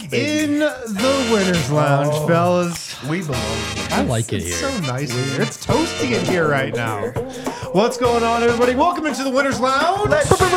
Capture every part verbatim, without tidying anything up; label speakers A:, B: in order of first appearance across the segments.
A: baby.
B: In the Winners Lounge, oh, fellas.
A: We belong
C: here. I like it
B: it's
C: here.
B: It's so nice in here. It's toasty in here right now. What's going on, everybody? Welcome into the Winners Lounge. Let's go.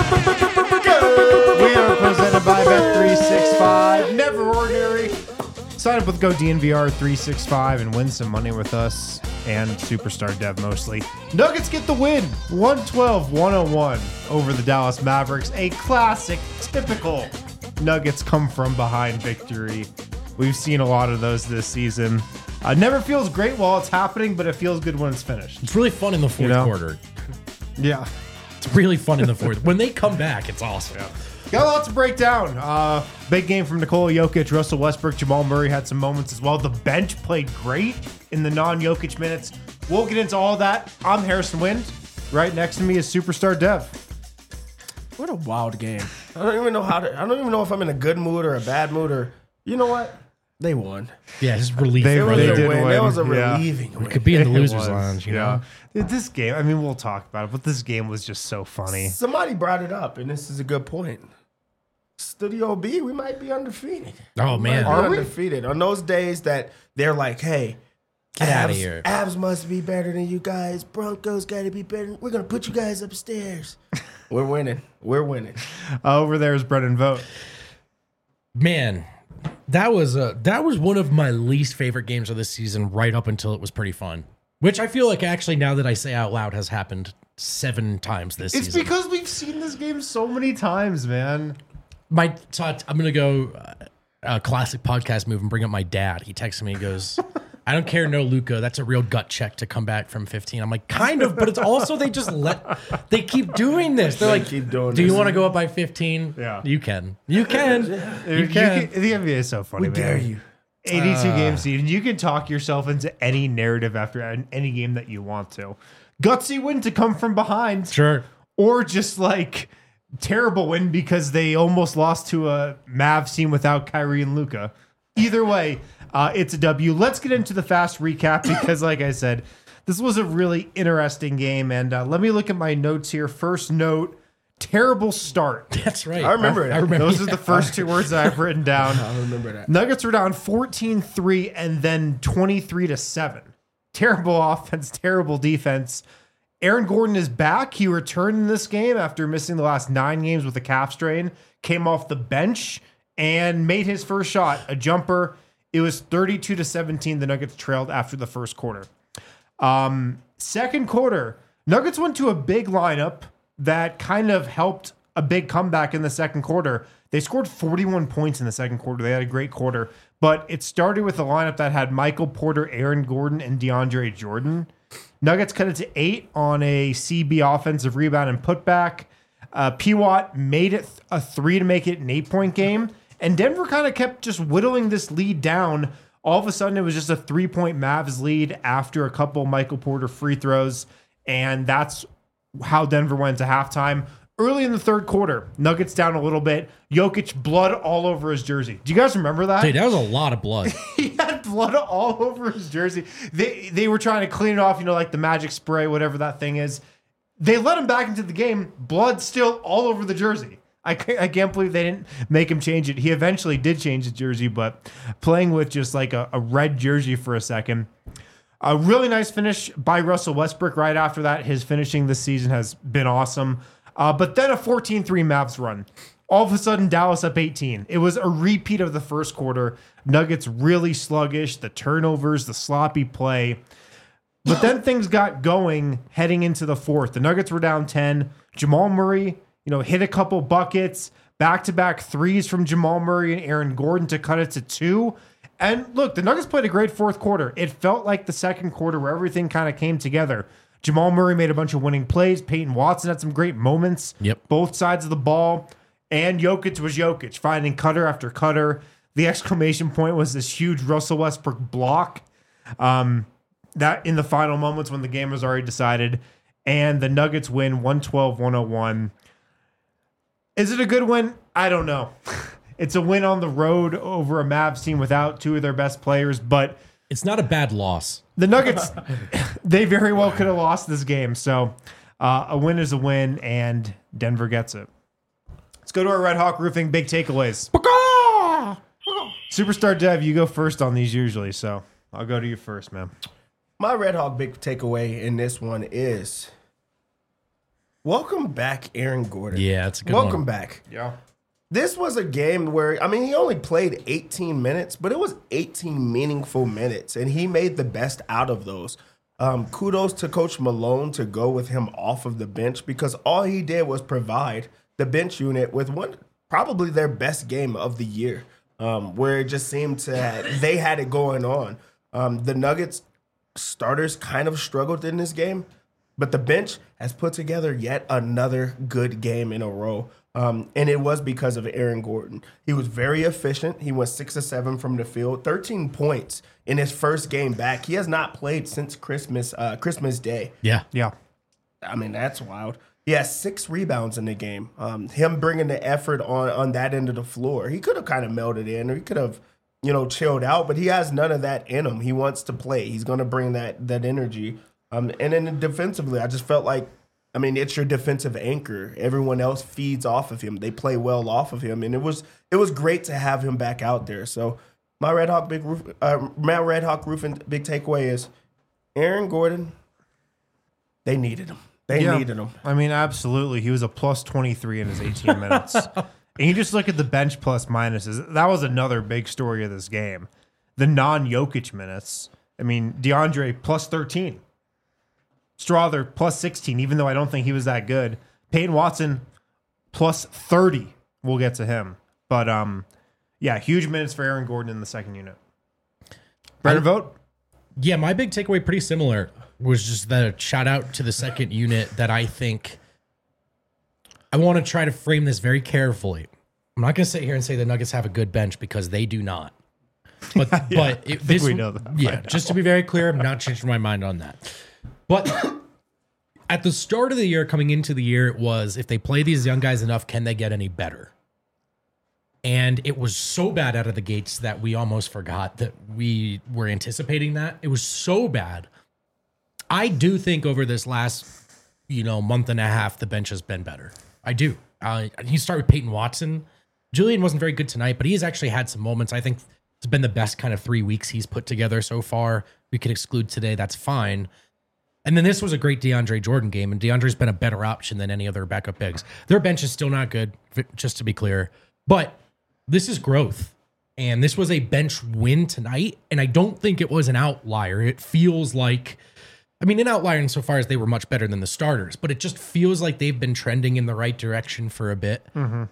B: We are presented by Bet three sixty-five. Never ordinary. Sign up with Go D N V R three sixty-five and win some money with us and Superstar Dev mostly. Nuggets get the win, one twelve to one oh one over the Dallas Mavericks. A classic, typical Nuggets come from behind victory. We've seen a lot of those this season. Uh, never feels great while it's happening, but it feels good when it's finished.
C: It's really fun in the fourth you know? quarter.
B: Yeah.
C: It's really fun in the fourth. When they come back, it's awesome.
B: Yeah. Got a lot to break down. Uh, big game from Nikola Jokic, Russell Westbrook, Jamal Murray had some moments as well. The bench played great in the non-Jokic minutes. We'll get into all that. I'm Harrison Wind. Right next to me is Superstar Dev.
A: What a wild game. I don't even know how to, I don't even know if I'm in a good mood or a bad mood or, you know what? They won.
C: Yeah, it's relief.
B: They,
A: it was
B: they
A: a
B: did
A: win.
B: win.
A: It was a
B: yeah.
A: relieving
C: we
A: win.
C: could be in the losers
B: was,
C: lounge, you
B: yeah.
C: know?
B: This game, I mean, we'll talk about it, but this game was just so funny.
A: Somebody brought it up, and this is a good point. Studio B, we might be undefeated.
C: Oh,
A: we
C: man.
A: Might be
B: Are
A: undefeated. We? On those days that they're like, hey,
C: get out of here.
A: Avs must be better than you guys. Broncos got to be better. We're going to put you guys upstairs. We're winning. We're winning.
B: Uh, over there is Brendan Vogt.
C: Man, that was a, that was one of my least favorite games of this season right up until it was pretty fun. Which I feel like actually now that I say out loud has happened seven times this
B: it's
C: season.
B: It's because we've seen this game so many times, man.
C: My so I'm going to go uh, a classic podcast move and bring up my dad. He texted me and goes, I don't care, no Luka. That's a real gut check to come back from fifteen. I'm like, kind of, but it's also they just let they keep doing this. They're
A: they
C: like,
A: keep doing
C: do
A: this.
C: you want to go up by fifteen?
B: Yeah,
C: you can. You can.
B: You,
C: you can.
B: You can. The N B A is so funny,
A: we
B: man.
A: dare you.
B: eighty-two
C: uh,
B: game season. You can talk yourself into any narrative after any game that you want to. Gutsy win to come from behind,
C: sure,
B: or just like terrible win because they almost lost to a Mavs team without Kyrie and Luka. Either way, uh, it's a W. Let's get into the fast recap because, like I said, this was a really interesting game. And uh, let me look at my notes here. First note, terrible start.
C: That's right.
A: I remember it.
C: I remember.
B: Those are the first two words that I've written down.
A: I remember that.
B: Nuggets were down fourteen three and then twenty-three to seven. Terrible offense, terrible defense. Aaron Gordon is back. He returned in this game after missing the last nine games with a calf strain. Came off the bench and made his first shot, a jumper. It was thirty-two to seventeen. The Nuggets trailed after the first quarter. Um, second quarter, Nuggets went to a big lineup that kind of helped a big comeback in the second quarter. They scored forty-one points in the second quarter. They had a great quarter, but it started with a lineup that had Michael Porter, Aaron Gordon, and DeAndre Jordan. Nuggets cut it to eight on a C B offensive rebound and putback. Uh, P. Watt made it a three to make it an eight-point game, and Denver kind of kept just whittling this lead down. All of a sudden, it was just a three-point Mavs lead after a couple Michael Porter free throws, and that's how Denver went to halftime. Early in the third quarter, Nuggets down a little bit. Jokic, blood all over his jersey. Do you guys remember that?
C: Dude, that was a lot of blood.
B: He had blood all over his jersey. They they were trying to clean it off, you know, like the magic spray, whatever that thing is. They let him back into the game. Blood still all over the jersey. I can't, I can't believe they didn't make him change it. He eventually did change his jersey, but playing with just like a, a red jersey for a second. A really nice finish by Russell Westbrook right after that. His finishing this season has been awesome. Uh, but then a fourteen three Mavs run. All of a sudden, Dallas up eighteen. It was a repeat of the first quarter. Nuggets really sluggish, the turnovers, the sloppy play. But then things got going heading into the fourth. The Nuggets were down ten. Jamal Murray, you know, hit a couple buckets, back-to-back threes from Jamal Murray and Aaron Gordon to cut it to two. And look, the Nuggets played a great fourth quarter. It felt like the second quarter where everything kind of came together. Jamal Murray made a bunch of winning plays. Peyton Watson had some great moments.
C: Yep.
B: Both sides of the ball. And Jokic was Jokic, finding cutter after cutter. The exclamation point was this huge Russell Westbrook block. Um, that in the final moments when the game was already decided. And the Nuggets win one twelve to one oh one. Is it a good win? I don't know. It's a win on the road over a Mavs team without two of their best players, but
C: it's not a bad loss.
B: The Nuggets, they very well could have lost this game. So uh, a win is a win, and Denver gets it. Let's go to our Red Hawk Roofing big takeaways. Superstar Dev, you go first on these usually, so I'll go to you first, man.
A: My Red Hawk big takeaway in this one is welcome back, Aaron Gordon.
C: Yeah, it's a good
A: welcome
C: one.
A: back.
B: Yeah.
A: This was a game where, I mean, he only played eighteen minutes, but it was eighteen meaningful minutes, and he made the best out of those. Um, kudos to Coach Malone to go with him off of the bench because all he did was provide the bench unit with one, probably their best game of the year, um, where it just seemed to have, they had it going on. Um, the Nuggets starters kind of struggled in this game, but the bench has put together yet another good game in a row. Um, and it was because of Aaron Gordon. He was very efficient. He went six or seven from the field, thirteen points in his first game back. He has not played since Christmas uh, Christmas Day.
C: Yeah.
B: Yeah.
A: I mean, that's wild. He has six rebounds in the game. Um, him bringing the effort on on that end of the floor. He could have kind of melded in, or he could have, you know, chilled out, but he has none of that in him. He wants to play. He's going to bring that that energy. Um, and then defensively, I just felt like, I mean, it's your defensive anchor. Everyone else feeds off of him. They play well off of him, and it was it was great to have him back out there. So my Red Hawk big roof, uh, my Red Hawk roofing big takeaway is Aaron Gordon. They needed him. They
B: Yeah.
A: needed him.
B: I mean, absolutely. He was a plus twenty-three in his eighteen minutes. And you just look at the bench plus minuses. That was another big story of this game. The non-Jokic minutes. I mean, DeAndre plus thirteen. Strother plus sixteen, even though I don't think he was that good. Peyton Watson plus thirty. We'll get to him. But, um, yeah, huge minutes for Aaron Gordon in the second unit. Brandon Vogt?
C: Yeah, my big takeaway, pretty similar, was just that shout out to the second unit that I think I want to try to frame this very carefully. I'm not going to sit here and say the Nuggets have a good bench because they do not. But
B: Yeah,
C: but
B: I
C: it,
B: think
C: this,
B: we know that
C: yeah,
B: by now.
C: just to be very clear, I'm not changing my mind on that. But at the start of the year, coming into the year, it was if they play these young guys enough, can they get any better? And it was so bad out of the gates that we almost forgot that we were anticipating that. It was so bad. I do think over this last, you know, month and a half, the bench has been better. I do. Uh, you start with Peyton Watson. Julian wasn't very good tonight, but he has actually had some moments. I think it's been the best kind of three weeks he's put together so far. We could exclude today. That's fine. And then this was a great DeAndre Jordan game, and DeAndre's been a better option than any other backup bigs. Their bench is still not good, just to be clear. But this is growth. And this was a bench win tonight, and I don't think it was an outlier. It feels like, I mean, an outlier insofar as they were much better than the starters, but it just feels like they've been trending in the right direction for a bit.
B: Mm-hmm.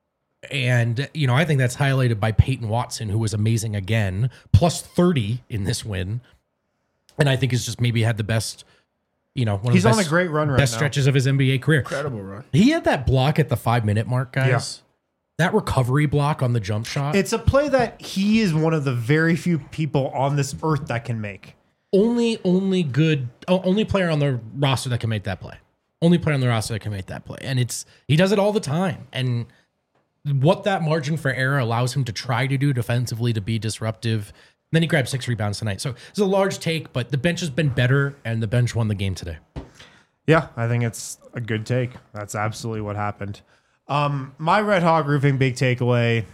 C: And, you know, I think that's highlighted by Peyton Watson, who was amazing again, plus thirty in this win. And I think he's just maybe had the best, you know, one
B: He's
C: of the
B: on
C: best,
B: a great run right
C: best
B: now.
C: stretches of his N B A career.
A: Incredible run.
C: He had that block at the five minute mark, guys. That recovery block on the jump shot.
B: It's a play that he is one of the very few people on this earth that can make.
C: only, only good, o- only player on the roster that can make that play. Only player on the roster that can make that play. And it's, he does it all the time. And what that margin for error allows him to try to do defensively to be disruptive. And then he grabbed six rebounds tonight. So it's a large take, but the bench has been better and the bench won the game today.
B: Yeah, I think it's a good take. That's absolutely what happened. Um, my Red Hawk roofing big takeaway.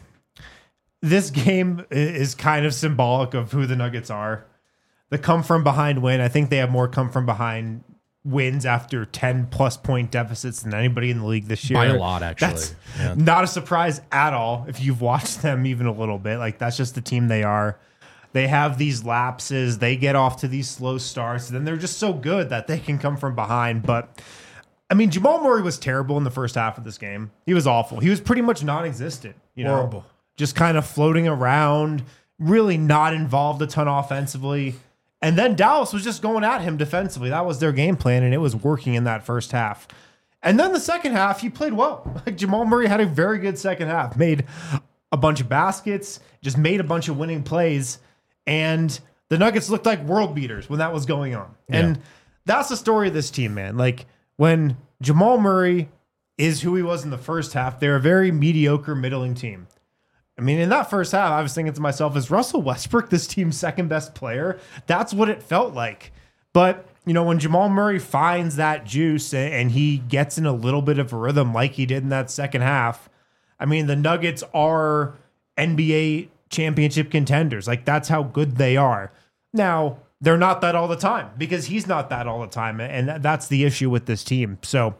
B: This game i- is kind of symbolic of who the Nuggets are. The come from behind win. I think they have more come from behind wins after ten plus point deficits than anybody in the league this year.
C: By a lot, actually.
B: That's
C: Yeah.
B: not a surprise at all if you've watched them even a little bit. Like, that's just the team they are. They have these lapses. They get off to these slow starts. And then they're just so good that they can come from behind. But, I mean, Jamal Murray was terrible in the first half of this game. He was awful. He was pretty much non-existent. You know?
A: Horrible.
B: Just kind of floating around, really not involved a ton offensively. And then Dallas was just going at him defensively. That was their game plan, and it was working in that first half. And then the second half, he played well. Like, Jamal Murray had a very good second half. Made a bunch of baskets, just made a bunch of winning plays. And the Nuggets looked like world beaters when that was going on. And that's the story of this team, man. Like, when Jamal Murray is who he was in the first half, they're a very mediocre, middling team. I mean, in that first half, I was thinking to myself, is Russell Westbrook this team's second best player? That's what it felt like. But, you know, when Jamal Murray finds that juice and, and he gets in a little bit of a rhythm like he did in that second half, I mean, the Nuggets are N B A championship contenders. Like, that's how good they are. Now, they're not that all the time because he's not that all the time. And that's the issue with this team. So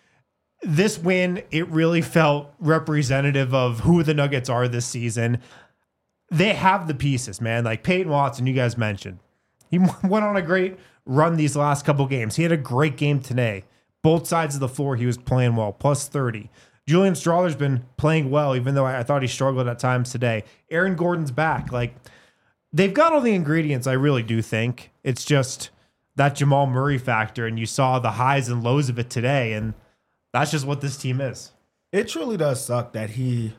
B: this win, it really felt representative of who the Nuggets are this season. They have the pieces, man. Like Peyton Watson, you guys mentioned. He went on a great run these last couple games. He had a great game today. Both sides of the floor, he was playing well, plus thirty. Julian Strawler's been playing well, even though I thought he struggled at times today. Aaron Gordon's back. Like, they've got all the ingredients, I really do think. It's just that Jamal Murray factor, and you saw the highs and lows of it today, and that's just what this team is.
A: It truly does suck that he,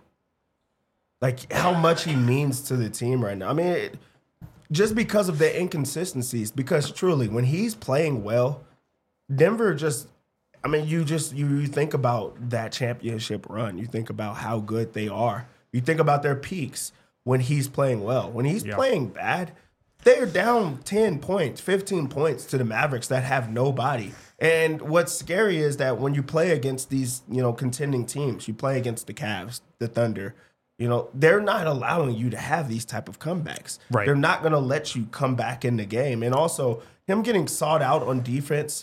A: like, how much he means to the team right now. I mean, it, just because of the inconsistencies, because truly, when he's playing well, Denver just, I mean, you just, you, you think about that championship run. You think about how good they are. You think about their peaks when he's playing well. When he's
B: yeah.
A: playing bad, they're down ten points, fifteen points to the Mavericks that have nobody. And what's scary is that when you play against these, you know, contending teams, you play against the Cavs, the Thunder, you know, they're not allowing you to have these type of comebacks.
B: Right.
A: They're not going to let you come back in the game. And also, him getting sought out on defense,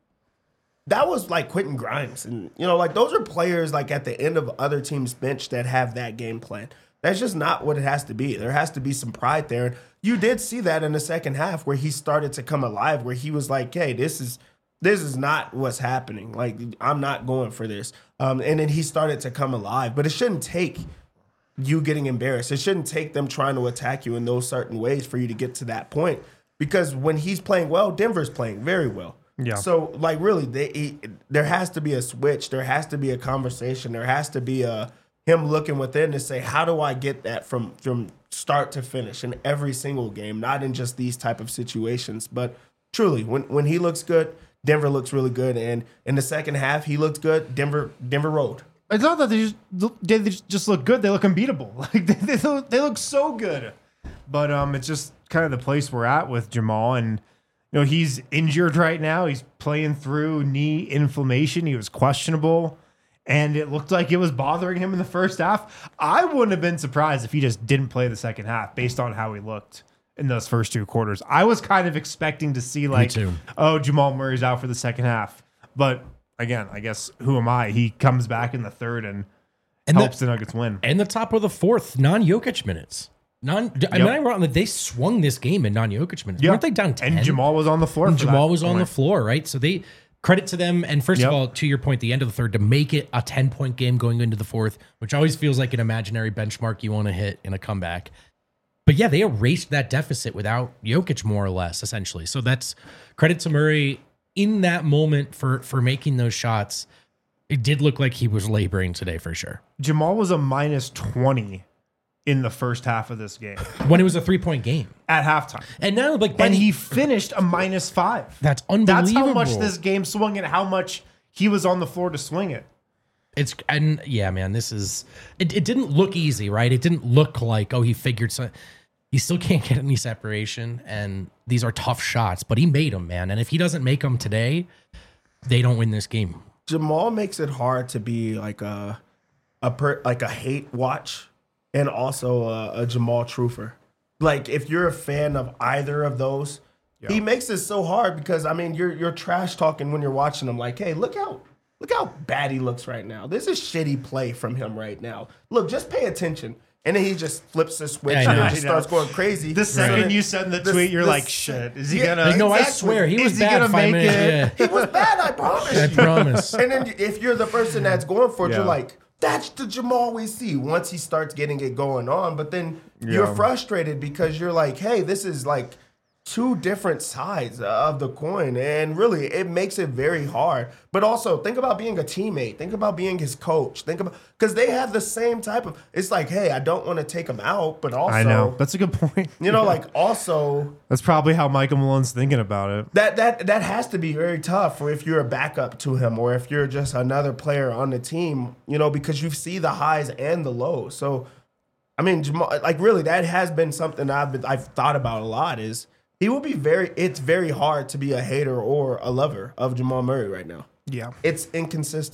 A: that was like Quentin Grimes. And, you know, like those are players like at the end of other teams' bench that have that game plan. That's just not what it has to be. There has to be some pride there. And you did see that in the second half where he started to come alive, where he was like, hey, this is this is not what's happening. Like, I'm not going for this. Um, and then he started to come alive. But it shouldn't take you getting embarrassed. It shouldn't take them trying to attack you in those certain ways for you to get to that point. Because when he's playing well, Denver's playing very well.
B: Yeah.
A: So, like, really, they, he, there has to be a switch. There has to be a conversation. There has to be a him looking within to say, how do I get that from from start to finish in every single game, not in just these type of situations. But truly, when when he looks good, Denver looks really good. And in the second half, he looked good. Denver Denver rolled.
B: It's not that they just they just look good; they look unbeatable. Like they they look, they look so good. But um, it's just kind of the place we're at with Jamal, and you know he's injured right now. He's playing through knee inflammation. He was questionable, and it looked like it was bothering him in the first half. I wouldn't have been surprised if he just didn't play the second half, based on how he looked in those first two quarters. I was kind of expecting to see like, oh, Jamal Murray's out for the second half, but. Again, I guess, who am I? He comes back in the third and, and helps the, the Nuggets win.
C: And the top of the fourth, non-Jokic minutes. Non, yep. I mean, I wrote that they swung this game in non-Jokic minutes. Yep. Weren't they down ten?
B: And Jamal was on the floor.
C: And
B: for
C: Jamal
B: that
C: was on
B: point.
C: the floor, right? So they credit to them. And first yep. of all, to your point, the end of the third, to make it a ten-point game going into the fourth, which always feels like an imaginary benchmark you want to hit in a comeback. But yeah, they erased that deficit without Jokic, more or less, essentially. So that's credit to Murray. In that moment for for making those shots, it did look like he was laboring today for sure.
B: Jamal was a minus twenty in the first half of this game.
C: When it was a three-point game.
B: At halftime.
C: And now, like,
B: and he finished a minus five.
C: That's unbelievable.
B: That's how much this game swung and how much he was on the floor to swing it.
C: It's, and yeah, man, this is, it, it didn't look easy, right? It didn't look like, oh, he figured something. He still can't get any separation, and these are tough shots, but he made them, man. And if he doesn't make them today, they don't win this game.
A: Jamal makes it hard to be like a a per, like a hate watch and also a, a Jamal truther. Like if you're a fan of either of those, yeah. he makes it so hard because I mean you're you're trash talking when you're watching him. Like, hey, look how look how bad he looks right now. This is shitty play from him right now. Look, just pay attention. And then he just flips the switch yeah, and just starts going crazy.
B: The second right. you send the tweet, you're this, like, shit, is he
C: yeah,
B: going to...
C: No, exactly. I swear, he was is bad he five minutes. Yeah.
A: He was bad, I promise
C: I
A: you.
C: promise.
A: And then if you're the person that's going for it,
B: yeah.
A: you're like, that's the Jamal we see once he starts getting it going on. But then yeah. you're frustrated because you're like, hey, this is like two different sides of the coin. And really, it makes it very hard. But also, think about being a teammate. Think about being his coach. Think about, because they have the same type of, it's like, hey, I don't want to take him out, but also.
B: I know. That's a good point.
A: You know, like also.
B: That's probably how Michael Malone's thinking about it.
A: That that that has to be very tough for if you're a backup to him or if you're just another player on the team, you know, because you see the highs and the lows. So, I mean, Jamal, like really, that has been something I've been, I've thought about a lot is, he will be very, it's very hard to be a hater or a lover of Jamal Murray right now.
B: Yeah.
A: It's inconsistent.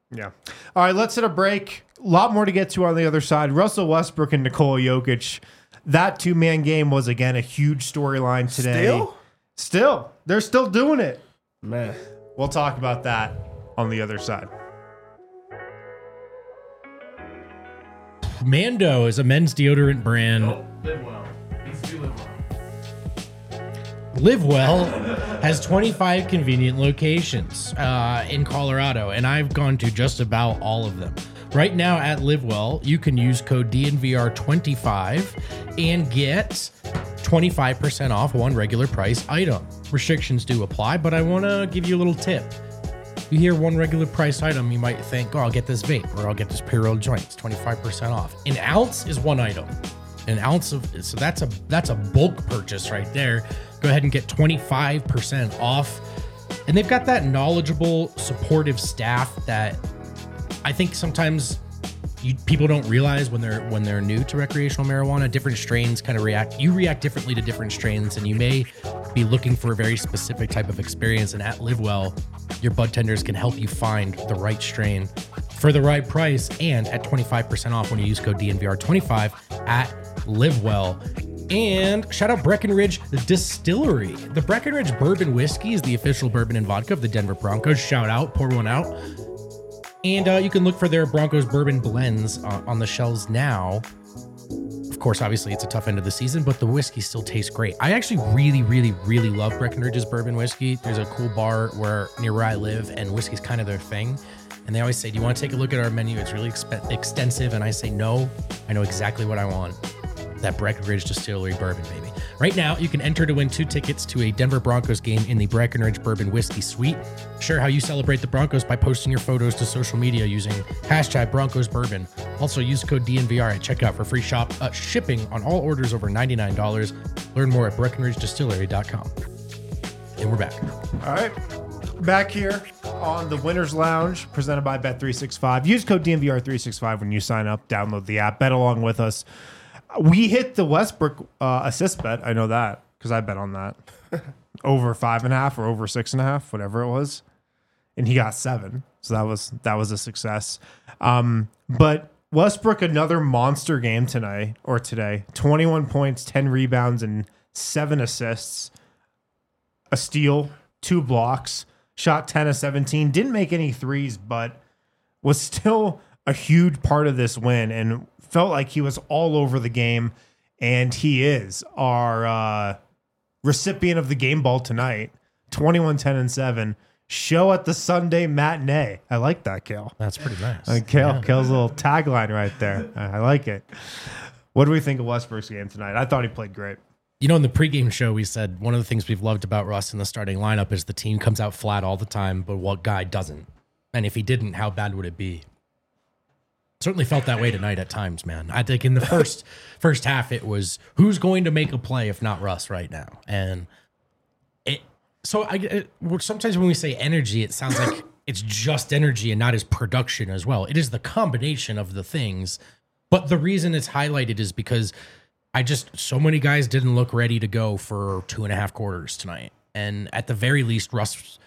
B: Yeah. All right, let's hit a break. A lot more to get to on the other side. Russell Westbrook and Nikola Jokic. That two-man game was, again, a huge storyline today.
A: Still?
B: Still. They're still doing it.
A: Man.
B: We'll talk about that on the other side.
C: Mando is a men's deodorant brand.
B: Live well.
C: Live Well has twenty-five convenient locations uh, in Colorado, and I've gone to just about all of them. Right now at Live Well, you can use code D N V R twenty-five and get twenty-five percent off one regular price item. Restrictions do apply, but I want to give you a little tip. You hear one regular price item, you might think, oh, I'll get this vape or I'll get this pre-rolled joint. It's twenty-five percent off. An ounce is one item. An ounce of, so that's a that's a bulk purchase right there. Go ahead and get twenty-five percent off. And they've got that knowledgeable, supportive staff that I think sometimes you, people don't realize when they're when they're new to recreational marijuana. Different strains kind of react. You react differently to different strains, and you may be looking for a very specific type of experience. And at Live Well, your bud tenders can help you find the right strain for the right price and at twenty-five percent off when you use code D N V R twenty-five at Live Well. And shout out Breckenridge Distillery. The Breckenridge Bourbon Whiskey is the official bourbon and vodka of the Denver Broncos. Shout out, pour one out. And uh, you can look for their Broncos bourbon blends uh, on the shelves now. Of course, obviously, it's a tough end of the season, but the whiskey still tastes great. I actually really, really, really love Breckenridge's bourbon whiskey. There's a cool bar where near where I live, and whiskey's kind of their thing. And they always say, do you want to take a look at our menu? It's really exp- extensive. And I say, no, I know exactly what I want. That Breckenridge Distillery bourbon, baby. Right now, you can enter to win two tickets to a Denver Broncos game in the Breckenridge Bourbon Whiskey Suite. Share how you celebrate the Broncos by posting your photos to social media using hashtag Broncos Bourbon. Also, use code D N V R at checkout for free shop uh, shipping on all orders over ninety-nine dollars. Learn more at breckenridge distillery dot com. And we're back.
B: All right. Back here on the Winners Lounge, presented by Bet three sixty-five. Use code D N V R three sixty-five when you sign up. Download the app. Bet along with us. We hit the Westbrook uh, assist bet. I know that because I bet on that. Over five and a half or over six and a half, whatever it was. And he got seven. So that was that was a success. Um, but Westbrook, another monster game tonight or today. twenty-one points, ten rebounds, and seven assists. A steal, two blocks. Shot ten of seventeen. Didn't make any threes, but was still a huge part of this win and felt like he was all over the game. And he is our uh, recipient of the game ball tonight. twenty-one, ten, and seven. Show at the Sunday matinee. I like that, Kale.
C: That's pretty nice.
B: Uh, Kale,
C: Yeah.
B: Kale's little tagline right there. I, I like it. What do we think of Westbrook's game tonight? I thought he played great.
C: You know, in the pregame show, we said one of the things we've loved about Russ in the starting lineup is the team comes out flat all the time, but what guy doesn't? And if he didn't, how bad would it be? Certainly felt that way tonight at times, man. I think in the first first half, it was who's going to make a play if not Russ right now? And it. So I it, sometimes when we say energy, it sounds like it's just energy and not his production as well. It is the combination of the things. But the reason it's highlighted is because I just so many guys didn't look ready to go for two and a half quarters tonight, and at the very least, Russ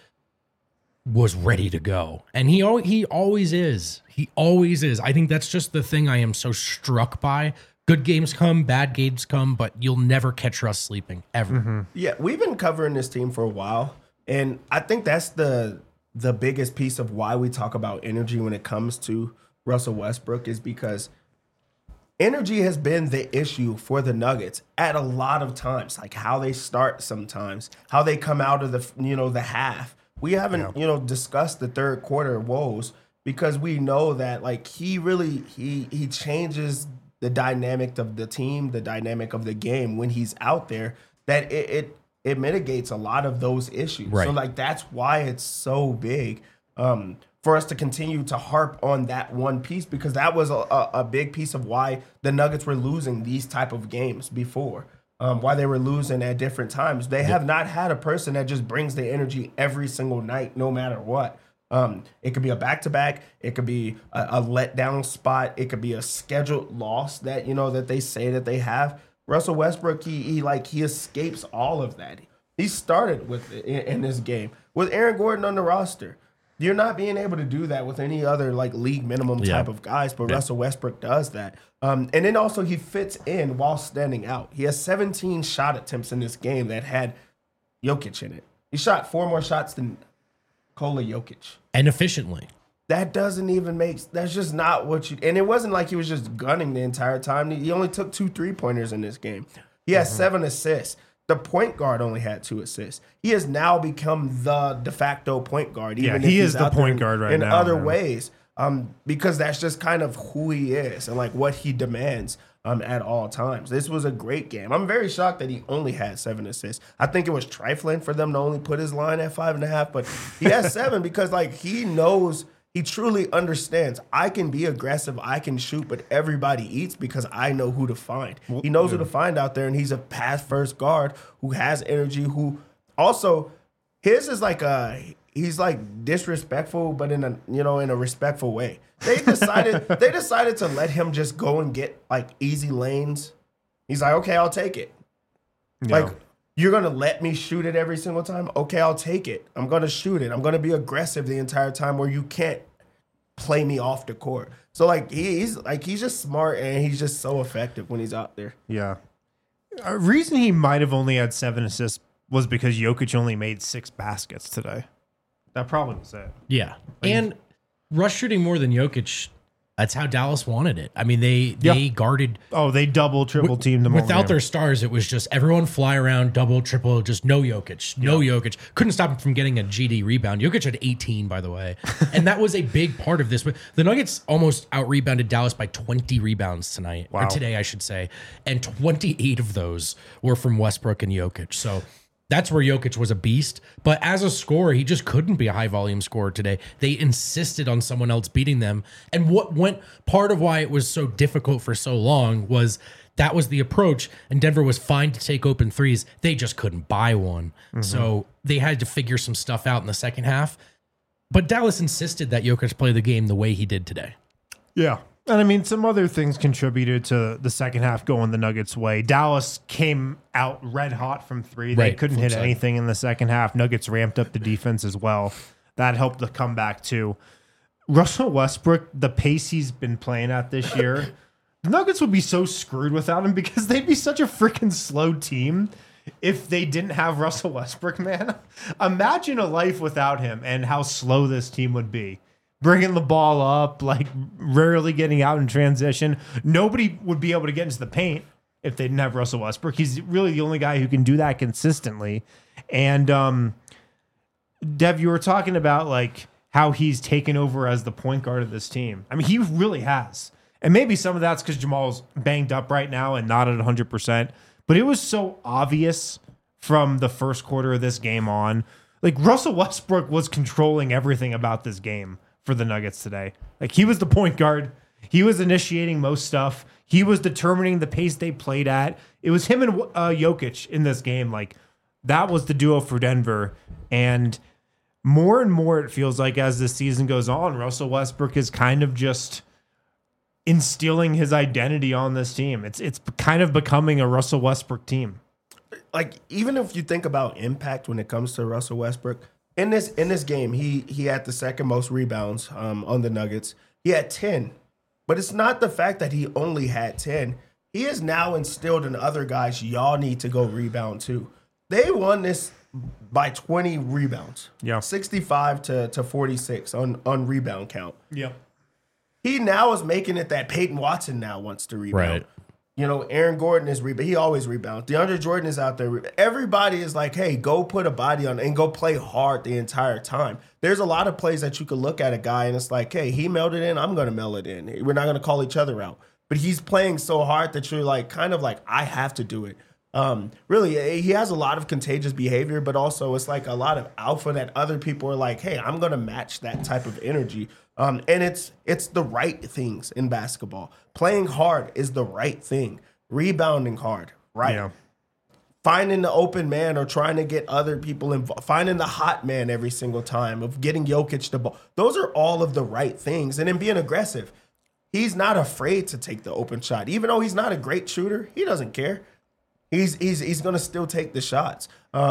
C: was ready to go, and he al- he always is. He always is. I think that's just the thing I am so struck by. Good games come, bad games come, but you'll never catch Russ sleeping ever.
B: Mm-hmm.
A: Yeah, we've been covering this team for a while, and I think that's the the biggest piece of why we talk about energy when it comes to Russell Westbrook is because energy has been the issue for the Nuggets at a lot of times, like how they start sometimes, how they come out of the you know the half. We haven't
B: Yeah.
A: you know discussed the third quarter woes because we know that like he really he he changes the dynamic of the team, the dynamic of the game when he's out there. That it it, it mitigates a lot of those issues.
C: Right.
A: So like that's why it's so big. Um, for us to continue to harp on that one piece because that was a, a, a big piece of why the Nuggets were losing these type of games before, um, why they were losing at different times. They have not had a person that just brings the energy every single night, no matter what. Um, it could be a back-to-back. It could be a, a letdown spot. It could be a scheduled loss that, you know, that they say that they have. Russell Westbrook, he, he like, he escapes all of that. He started with it in, in this game with Aaron Gordon on the roster. You're not being able to do that with any other like league minimum
C: Yeah.
A: type of guys, but
C: Yeah.
A: Russell Westbrook does that. Um, and then also he fits in while standing out. He has seventeen shot attempts in this game that had Jokic in it. He shot four more shots than Nikola Jokic.
C: And efficiently.
A: That doesn't even make. That's just not what you. And it wasn't like he was just gunning the entire time. He only took two three pointers in this game. He has mm-hmm. seven assists. The point guard only had two assists. He has now become the de facto point guard. Even
B: yeah, he
A: if
B: is
A: he's
B: the
A: out
B: point
A: there
B: guard right
A: in
B: now.
A: other
B: man.
A: ways, um, because that's just kind of who he is and like what he demands um, at all times. This was a great game. I'm very shocked that he only had seven assists. I think it was trifling for them to only put his line at five and a half, but he has seven because like he knows. He truly understands. I can be aggressive. I can shoot, but everybody eats because I know who to find. He knows who to find out there, and he's a pass first guard who has energy. Who also his is like a he's like disrespectful, but in a you know in a respectful way. They decided they decided to let him just go and get like easy lanes. He's like, okay, I'll take it.
B: Yeah.
A: Like. You're going to let me shoot it every single time? Okay, I'll take it. I'm going to shoot it. I'm going to be aggressive the entire time where you can't play me off the court. So like he's like he's just smart and he's just so effective when he's out there.
B: Yeah. A reason he might have only had seven assists was because Jokic only made six baskets today. That probably was it.
C: Yeah. And rush shooting more than Jokic, that's how Dallas wanted it. I mean, they they
B: Yeah.
C: guarded
B: Oh, they double, triple teamed them all
C: without
B: game.
C: their stars. It was just everyone fly around, double, triple, just no Jokic, no Jokic. Couldn't stop him from getting a G D rebound. Jokic had eighteen, by the way, and that was a big part of this. But the Nuggets almost out rebounded Dallas by twenty rebounds tonight,
B: Wow.
C: or today, I should say, and twenty-eight of those were from Westbrook and Jokic. So. That's where Jokic was a beast. But as a scorer, he just couldn't be a high volume scorer today. They insisted on someone else beating them. And what went part of why it was so difficult for so long was that was the approach. And Denver was fine to take open threes. They just couldn't buy one. Mm-hmm. So they had to figure some stuff out in the second half. But Dallas insisted that Jokic play the game the way he did today.
B: Yeah. And I mean, some other things contributed to the second half going the Nuggets' way. Dallas came out red hot from three. They
C: Right,
B: couldn't
C: flip
B: hit
C: side.
B: anything in the second half. Nuggets ramped up the defense as well. That helped the comeback too. Russell Westbrook, the pace he's been playing at this year, the Nuggets would be so screwed without him because they'd be such a freaking slow team if they didn't have Russell Westbrook, man. Imagine a life without him and how slow this team would be. Bringing the ball up, like rarely getting out in transition. Nobody would be able to get into the paint if they didn't have Russell Westbrook. He's really the only guy who can do that consistently. And um, Dev, you were talking about like how he's taken over as the point guard of this team. I mean, he really has. And maybe some of that's because Jamal's banged up right now and not at one hundred percent. But it was so obvious from the first quarter of this game on. Like Russell Westbrook was controlling everything about this game for the Nuggets today. Like he was the point guard. He was initiating most stuff. He was determining the pace they played at. It was him and uh, Jokic in this game. Like that was the duo for Denver. And more and more it feels like as the season goes on, Russell Westbrook is kind of just instilling his identity on this team. It's it's kind of becoming a Russell Westbrook team.
A: Like even if you think about impact when it comes to Russell Westbrook, in this in this game, he he had the second most rebounds um, on the Nuggets. He had ten, but it's not the fact that he only had ten. He has now instilled in other guys, y'all need to go rebound too. They won this by twenty rebounds.
B: Yeah.
A: sixty-five to, to forty-six on, on rebound count.
B: Yep.
A: He now is making it that Peyton Watson now wants to rebound.
C: Right.
A: You know, Aaron Gordon is rebound. He always rebounds. DeAndre Jordan is out there. Everybody is like, hey, go put a body on and go play hard the entire time. There's a lot of plays that you could look at a guy and it's like, hey, he mailed it in. I'm going to mail it in. We're not going to call each other out. But he's playing so hard that you're like, kind of like, I have to do it. Um, really, he has a lot of contagious behavior, but also it's like a lot of alpha that other people are like, hey, I'm going to match that type of energy. Um, and it's it's the right things in basketball. Playing hard is the right thing. Rebounding hard, right?
B: Yeah.
A: Finding the open man or trying to get other people involved. Finding the hot man every single time of getting Jokic the ball. Those are all of the right things. And then being aggressive. He's not afraid to take the open shot. Even though he's not a great shooter, he doesn't care. He's he's he's going to still take the shots. Um,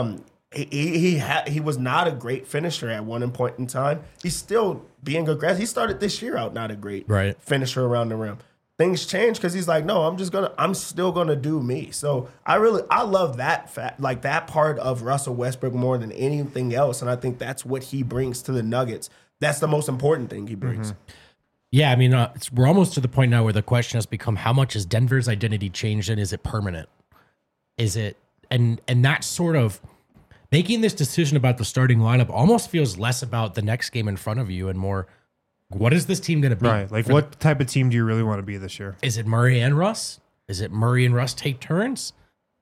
A: he he he, ha- he was not a great finisher at one point in time. He's still being aggressive. He started this year out not a great
C: Right.
A: finisher around the rim. Things change because he's like, no, I'm just gonna, I'm still gonna do me. So I really, I love that fact, like that part of Russell Westbrook more than anything else, and I think that's what he brings to the Nuggets. That's the most important thing he brings.
B: Mm-hmm.
C: Yeah, I mean, uh, it's, we're almost to the point now where the question has become: how much has Denver's identity changed, and is it permanent? Is it and and that sort of making this decision about the starting lineup almost feels less about the next game in front of you and more, what is this team going to be?
B: Right. Like,
C: for
B: what type of team do you really want to be this year?
C: Is it Murray and Russ? Is it Murray and Russ take turns?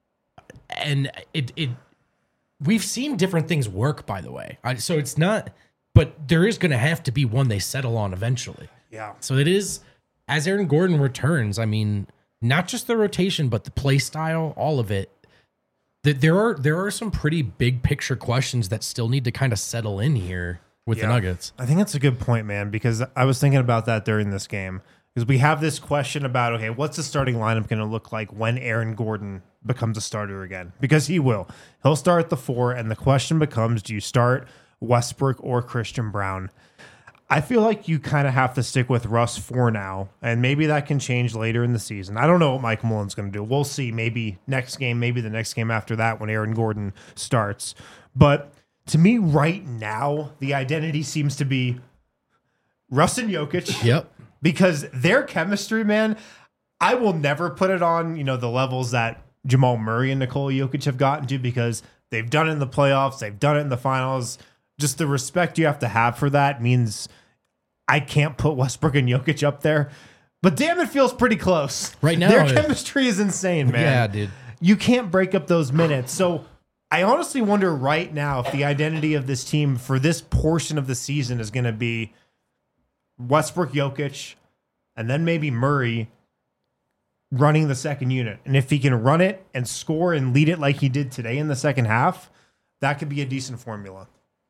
C: And it it we've seen different things work, by the way. I, so it's not, but there is going to have to be one they settle on eventually.
B: Yeah.
C: So it is, as Aaron Gordon returns, I mean, not just the rotation, but the play style, all of it. That there are there are some pretty big picture questions that still need to kind of settle in here with
B: Yeah.
C: the Nuggets.
B: I think that's a good point, man, because I was thinking about that during this game. Because we have this question about, okay, what's the starting lineup going to look like when Aaron Gordon becomes a starter again? Because he will. He'll start at the four, and the question becomes, do you start Westbrook or Christian Brown? I feel like you kind of have to stick with Russ for now, and maybe that can change later in the season. I don't know what Mike Mullen's going to do. We'll see. Maybe next game, maybe the next game after that when Aaron Gordon starts. But to me, right now, the identity seems to be Russ and Jokic.
C: Yep.
B: Because their chemistry, man, I will never put it on, you know, the levels that Jamal Murray and Nikola Jokic have gotten to, because they've done it in the playoffs, they've done it in the finals. Just the respect you have to have for that means I can't put Westbrook and Jokic up there. But damn, it feels pretty close.
C: Right now,
B: their
C: it-
B: chemistry is insane, man.
C: Yeah, dude.
B: You can't break up those minutes. So I honestly wonder right now if the identity of this team for this portion of the season is going to be Westbrook, Jokic, and then maybe Murray running the second unit. And if he can run it and score and lead it like he did today in the second half, that could be a decent formula.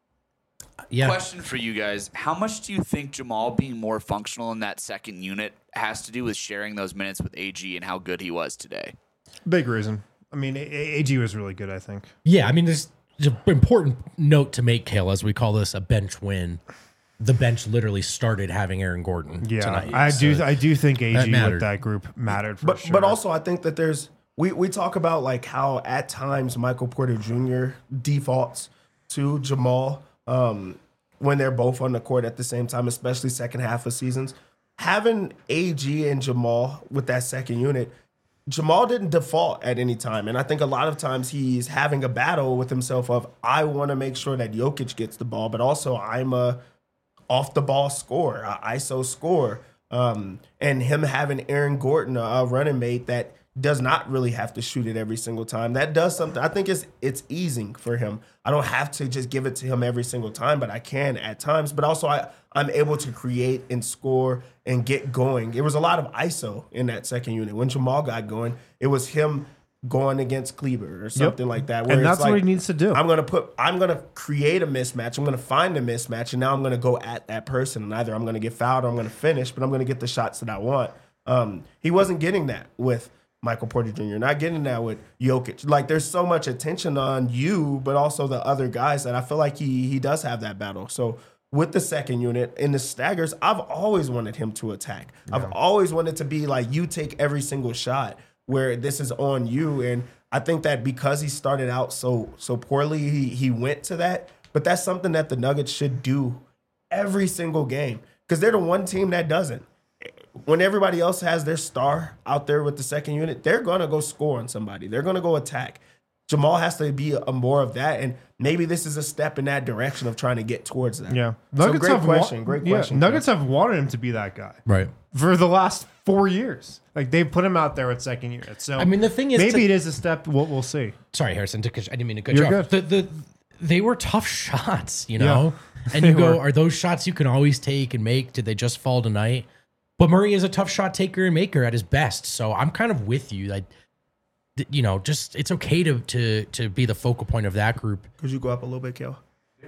C: Yeah.
D: Question for you guys. How much do you think Jamal being more functional in that second unit has to do with sharing those minutes with A G and how good he was today?
B: Big reason. I mean, A G was really good, I think.
C: Yeah, I mean, there's, there's an important note to make, Kale, as we call this a bench win. The bench literally started having Aaron Gordon
B: Yeah,
C: tonight.
B: I do.
C: so-
B: I do think A
C: that
B: G
C: mattered.
B: with that group mattered for
A: But
B: sure.
A: but also I think that there's we we talk about like how at times Michael Porter Junior defaults to Jamal um, when they're both on the court at the same time, especially second half of seasons. Having A G and Jamal with that second unit, Jamal didn't default at any time. And I think a lot of times he's having a battle with himself of, I want to make sure that Jokic gets the ball, but also I'm a off the ball scorer, a I S O scorer. Um, and him having Aaron Gordon, a, a running mate that does not really have to shoot it every single time. That does something. I think it's it's easing for him. I don't have to just give it to him every single time, but I can at times. But also I, I'm able to create and score and get going. It was a lot of I S O in that second unit. When Jamal got going, it was him going against Kleber or something like that. Where
B: And
A: it's
B: that's
A: like,
B: what he needs to do.
A: I'm gonna put I'm gonna create a mismatch. I'm gonna find a mismatch, and now I'm gonna go at that person. And either I'm gonna get fouled or I'm gonna finish, but I'm gonna get the shots that I want. Um, he wasn't getting that with Michael Porter Junior Not getting that with Jokic. Like there's so much attention on you, but also the other guys that I feel like he he does have that battle. So with the second unit in the staggers, I've always wanted him to attack. I've always wanted to be like, you take every single shot where this is on you. And I think that because he started out so so poorly, he he went to that. But that's something that the Nuggets should do every single game, because they're the one team that doesn't. When everybody else has their star out there with the second unit, they're going to go score on somebody. They're going to go attack. Jamal has to be a more of that, and maybe this is a step in that direction of trying to get towards that.
B: yeah,
A: So great
B: have wa-
A: question. Great
B: yeah,
A: question.
B: Nuggets have wanted him to be that guy
C: Right.
B: for the last four years. Like they've put him out there at second unit. So
C: I mean, the thing is
B: maybe
C: to-
B: it is a step. We'll, we'll see.
C: Sorry, Harrison, to, I didn't mean to cut
B: You're
C: you off.
B: good.
C: The, the, they were tough shots, you know? And
B: They
C: you go,
B: were.
C: are those shots you can always take and make? Did they just fall tonight? But Murray is a tough shot taker and maker at his best. So I'm kind of with you. Like, th- you know, just it's okay to to to be the focal point of that group.
A: Could you go up a little bit, Kel?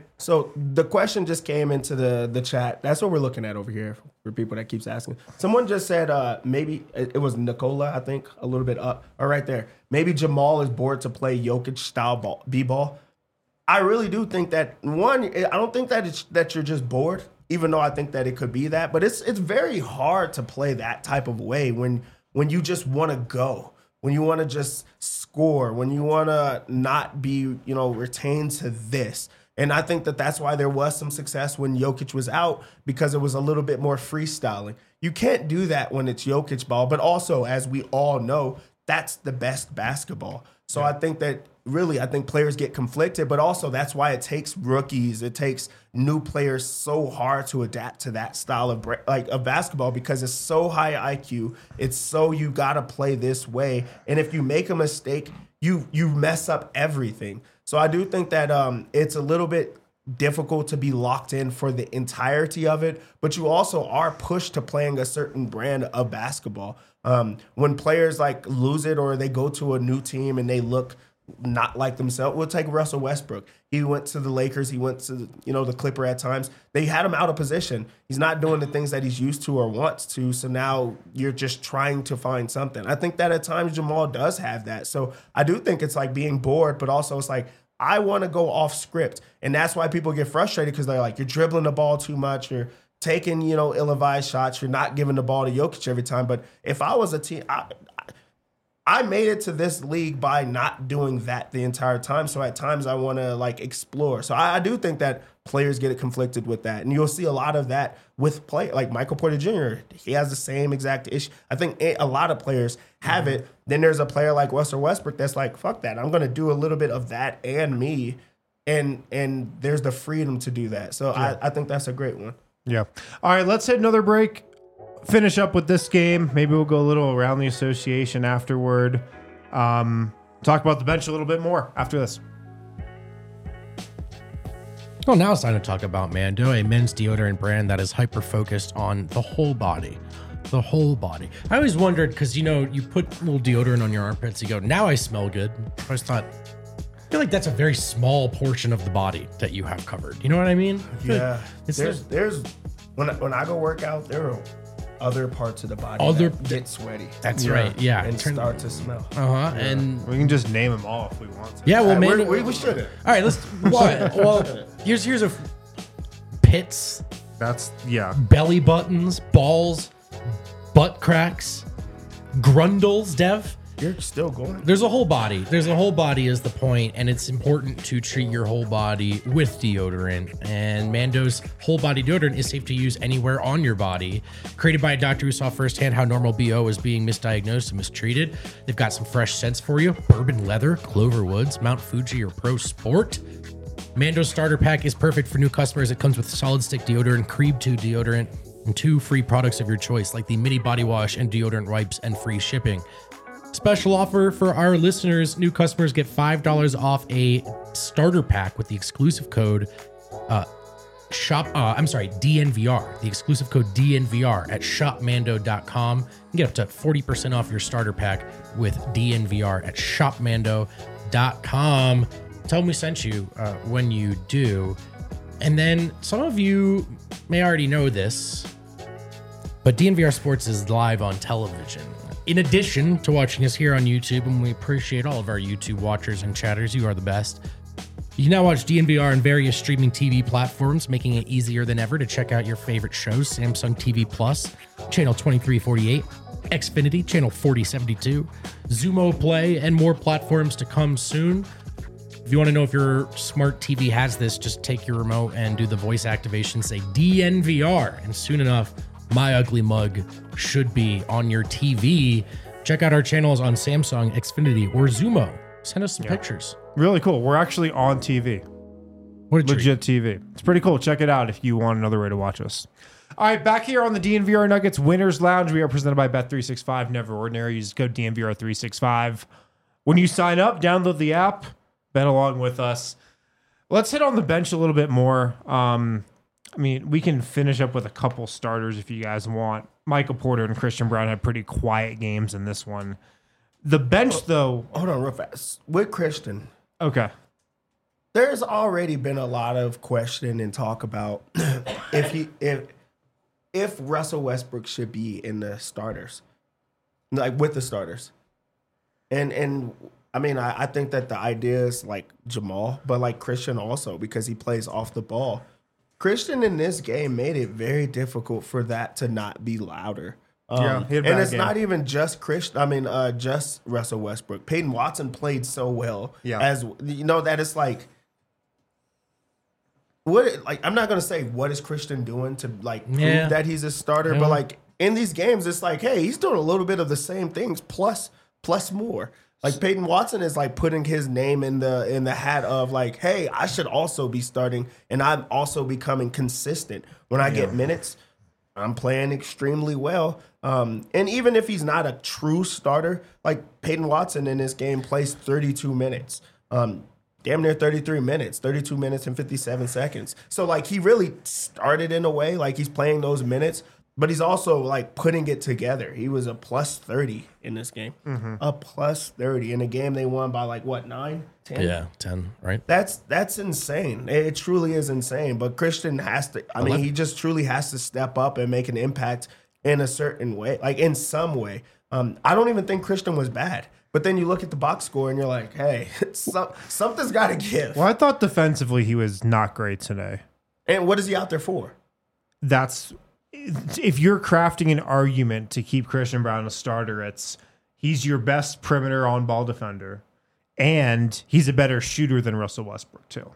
A: So the question just came into the the chat. That's what we're looking at over here for people that keeps asking. Someone just said uh, maybe it, it was Nicola, I think, a little bit up or right there. Maybe Jamal is bored to play Jokic style ball, b-ball. I really do think that one. I don't think that it's that you're just bored, even though I think that it could be that. But it's it's very hard to play that type of way when when you just want to go, when you want to just score, when you want to not be you know retained to this. And I think that that's why there was some success when Jokic was out, because it was a little bit more freestyling. You can't do that when it's Jokic ball, but also, as we all know, that's the best basketball. So yeah. I think that really, I think players get conflicted, but also that's why it takes rookies, it takes new players so hard to adapt to that style of like of basketball, because it's so high I Q. It's so you got to play this way, and if you make a mistake, you you mess up everything. So I do think that um, it's a little bit difficult to be locked in for the entirety of it, but you also are pushed to playing a certain brand of basketball. Um, when players like lose it or they go to a new team and they look not like themselves, we'll take Russell Westbrook. He went to the Lakers. He went to you know the Clipper at times. They had him out of position. He's not doing the things that he's used to or wants to. So now you're just trying to find something. I think that at times Jamal does have that. So I do think it's like being bored, but also it's like, I want to go off script. And that's why people get frustrated, because they're like, you're dribbling the ball too much. You're taking, you know, ill-advised shots. You're not giving the ball to Jokic every time. But if I was a team, I, I made it to this league by not doing that the entire time. So at times I want to like explore. So I, I do think that players get conflicted with that. And you'll see a lot of that with play like Michael Porter Junior He has the same exact issue. I think a lot of players have it. Then there's a player like Russell Westbrook that's like, fuck that. I'm going to do a little bit of that and me. And and there's the freedom to do that. So yeah. I, I think that's a great one.
B: Yeah. All right, let's hit another break. Finish up with this game. Maybe we'll go a little around the association afterward. Um, talk about the bench a little bit more after this.
C: Well, now it's time to talk about Mando, a men's deodorant brand that is hyper-focused on the whole body. The whole body. I always wondered, because, you know, you put a little deodorant on your armpits, you go, now I smell good. I always thought, I feel like that's a very small portion of the body that you have covered. You know what I mean? I
A: yeah.
C: Like it's
A: there's, there's, when I, when I go work out, there are other parts of the body
C: other
A: that get sweaty.
C: That's yeah. right. Yeah.
A: And Turn, start to smell.
C: Uh-huh. Yeah. And
B: we can just name them all if we want to.
C: Yeah, well,
A: right,
C: man.
A: We, we should have.
C: All right, let's. What? Well, here's here's a pits.
B: That's yeah.
C: Belly buttons, balls, butt cracks, grundles. Dev.
A: You're still going.
C: There's a whole body. There's a whole body is the point, and it's important to treat your whole body with deodorant. And Mando's whole body deodorant is safe to use anywhere on your body. Created by a doctor who saw firsthand how normal B O is being misdiagnosed and mistreated. They've got some fresh scents for you: bourbon leather, Clover Woods, Mount Fuji, or Pro Sport. Mando's starter pack is perfect for new customers. It comes with solid stick deodorant, Creeb two deodorant, and two free products of your choice, like the mini body wash and deodorant wipes, and free shipping. Special offer for our listeners. New customers get five dollars off a starter pack with the exclusive code uh, shop. Uh, I'm sorry, D N V R. The exclusive code D N V R at shop mando dot com. You can get up to forty percent off your starter pack with D N V R at shop mando dot com. Tell them we sent you uh, when you do. And then some of you may already know this, but D N V R Sports is live on television. In addition to watching us here on YouTube, and we appreciate all of our YouTube watchers and chatters, you are the best. You can now watch D N V R on various streaming T V platforms, making it easier than ever to check out your favorite shows: Samsung T V Plus, channel twenty-three forty-eight, Xfinity, channel forty seventy-two, Xumo Play, and more platforms to come soon. If you want to know if your smart T V has this, just take your remote and do the voice activation, say D N V R, and soon enough, My Ugly Mug should be on your T V. Check out our channels on Samsung, Xfinity, or Xumo. Send us some yeah. pictures.
B: Really cool. We're actually on T V.
C: What a
B: Legit
C: treat.
B: T V. It's pretty cool. Check it out if you want another way to watch us. All right, back here on the D N V R Nuggets Winners Lounge, we are presented by Bet three sixty-five. Never ordinary. You just go D N V R three sixty-five. When you sign up, download the app, bet along with us. Let's hit on the bench a little bit more. Um, I mean, we can finish up with a couple starters if you guys want. Michael Porter and Christian Brown had pretty quiet games in this one. The bench, oh, though...
A: Hold on real fast. With Christian...
B: Okay.
A: There's already been a lot of question and talk about if he if if Russell Westbrook should be in the starters, like with the starters, and and I mean, I, I think that the idea is like Jamal, but like Christian also because he plays off the ball. Christian in this game made it very difficult for that to not be louder. Um,
B: Yeah, he had a
A: and
B: bad
A: it's
B: game.
A: not even just Christian. I mean, uh, just Russell Westbrook. Peyton Watson played so well.
B: Yeah.
A: As you know, that it's like, what? Like, I'm not gonna say what is Christian doing to like prove
C: Yeah.
A: that he's a starter,
C: Yeah.
A: but like in these games, it's like, hey, he's doing a little bit of the same things plus plus more. Like Peyton Watson is like putting his name in the in the hat of like, hey, I should also be starting, and I'm also becoming consistent when I get minutes. I'm playing extremely well. Um, and even if he's not a true starter, like Peyton Watson in this game plays thirty-two minutes. Um, damn near thirty-three minutes, thirty-two minutes and fifty-seven seconds. So like he really started in a way, like he's playing those minutes, but he's also like putting it together. He was a plus thirty in this game. A plus thirty in a game they won by like what, nine, ten?
C: Yeah, ten, right?
A: That's that's insane. It truly is insane. But Christian has to. I mean, he just truly has to step up and make an impact in a certain way, like in some way. Um, I don't even think Christian was bad. But then you look at the box score and you're like, hey, some, something's got to give.
B: Well, I thought defensively he was not great today.
A: And what is he out there for?
B: That's if you're crafting an argument to keep Christian Brown a starter, it's he's your best perimeter on ball defender, and he's a better shooter than Russell Westbrook too.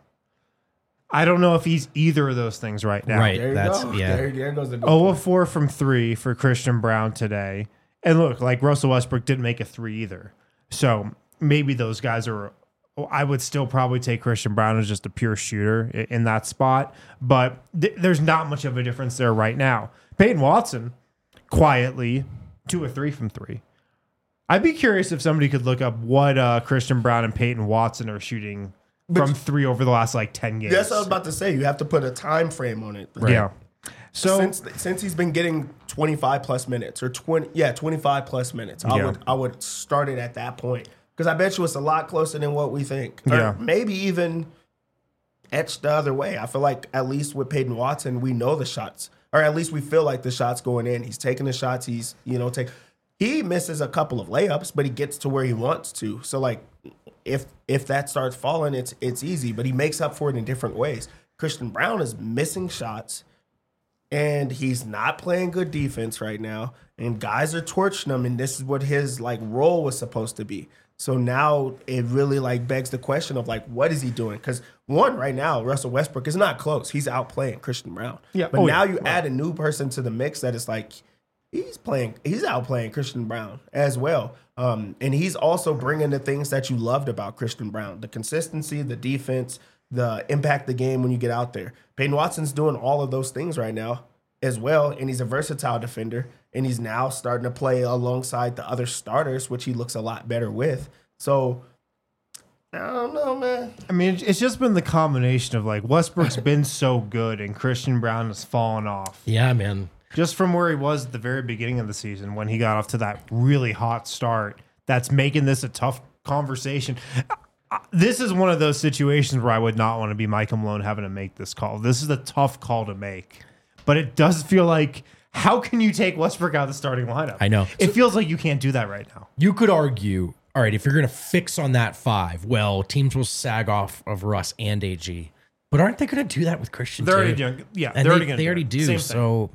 B: I don't know if he's either of those things right now.
C: Right.
A: There you
C: That's-
A: go.
C: yeah.
A: There, there goes the good
B: zero
A: point.
B: of four from three for Christian Brown today. And look, like Russell Westbrook didn't make a three either. So maybe those guys are, I would still probably take Christian Brown as just a pure shooter i- in that spot. But th- there's not much of a difference there right now. Peyton Watson, quietly, two or three from three. I'd be curious if somebody could look up what uh, Christian Brown and Peyton Watson are shooting from three over the last like ten games.
A: That's what I was about to say. You have to put a time frame on it.
B: Yeah. So
A: since since he's been getting twenty-five plus minutes or twenty yeah, twenty-five plus minutes, I
B: Yeah.
A: would I would start it at that point because I bet you it's a lot closer than what we think. Or
B: Yeah.
A: maybe even etched the other way. I feel like at least with Peyton Watson, we know the shots, or at least we feel like the shots going in. He's taking the shots. He's you know take. He misses a couple of layups, but he gets to where he wants to. So like, if if that starts falling, it's it's easy. But he makes up for it in different ways. Christian Brown is missing shots, and he's not playing good defense right now. And guys are torching him, and this is what his like role was supposed to be. So now it really like begs the question of like, what is he doing? Because one, right now, Russell Westbrook is not close. He's outplaying Christian Brown.
B: Yeah.
A: But
B: Oh,
A: now
B: yeah.
A: you add a new person to the mix that is like, he's playing, he's outplaying Christian Brown as well. Um, and he's also bringing the things that you loved about Christian Brown, the consistency, the defense, the impact the game when you get out there. Peyton Watson's doing all of those things right now as well, and he's a versatile defender, and he's now starting to play alongside the other starters, which he looks a lot better with. So, I don't know, man.
B: I mean, it's just been the combination of like Westbrook's been so good and Christian Brown has fallen off.
C: Yeah, man.
B: Just from where he was at the very beginning of the season when he got off to that really hot start, that's making this a tough conversation. Uh, This is one of those situations where I would not want to be Mike Malone having to make this call. This is a tough call to make, but it does feel like, how can you take Westbrook out of the starting lineup?
C: I know.
B: It feels like you can't do that right now.
C: You could argue, all right, if you're going to fix on that five, well, teams will sag off of Russ and A G. But aren't they going to do that with Christian
B: They're
C: too?
B: already doing, yeah,
C: And
B: they're
C: they,
B: already going to
C: they
B: do
C: already
B: it.
C: do.
B: Same thing.
C: So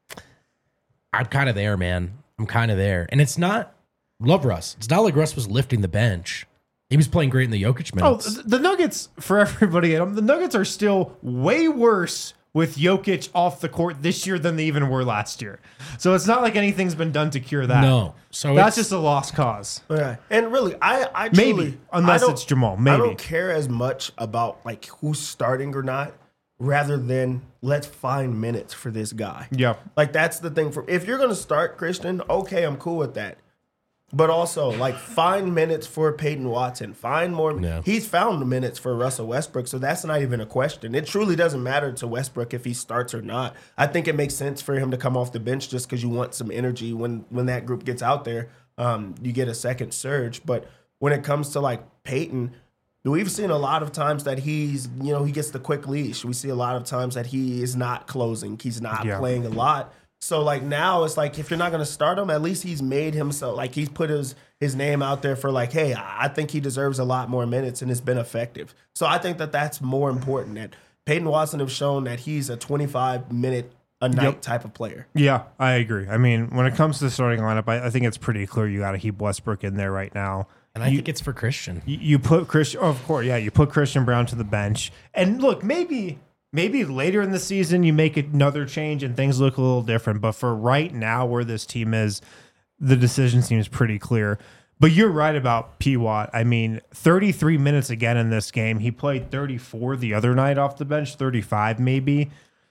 C: I'm kind of there, man. I'm kind of there. And it's not, love Russ. It's not like Russ was lifting the bench. He was playing great in the Jokic
B: Oh,
C: minutes.
B: th- the Nuggets, for everybody at home, the Nuggets are still way worse with Jokic off the court this year than they even were last year. So it's not like anything's been done to cure that.
C: No. So
B: That's
C: it's,
B: just a lost cause.
A: Yeah. And really, I, I
B: Maybe,
A: truly,
B: unless
A: I don't-
B: it's Jamal,
A: I
B: maybe.
A: don't care as much about like who's starting or not, rather than let's find minutes for this guy.
B: Yeah.
A: Like that's the thing. For if you're gonna start Christian, okay, I'm cool with that. But also, like, find minutes for Peyton Watson. Find more.
C: Yeah.
A: He's found minutes for Russell Westbrook, so that's not even a question. It truly doesn't matter to Westbrook if he starts or not. I think it makes sense for him to come off the bench just because you want some energy when when that group gets out there. Um, you get a second surge. But when it comes to like Peyton, we've seen a lot of times that he's, you know, he gets the quick leash. We see a lot of times that he is not closing. He's not
B: Yeah.
A: playing a lot. So like now it's like if you're not going to start him, at least he's made himself like he's put his his name out there for like, hey, I think he deserves a lot more minutes and it's been effective. So I think that that's more important. That Peyton Watson have shown that he's a twenty-five minute a night
B: Yep.
A: type of player.
B: Yeah, I agree. I mean, when it comes to the starting lineup, I, I think it's pretty clear you got to keep Westbrook in there right now.
C: And I
B: you,
C: think it's for Christian.
B: you, you put Christian, oh, of course, yeah, you put Christian Brown to the bench. And look, maybe maybe later in the season you make another change and things look a little different. But for right now, where this team is, the decision seems pretty clear. But you're right about P. Watt. I mean, thirty-three minutes again in this game. He played thirty-four the other night off the bench, thirty-five maybe.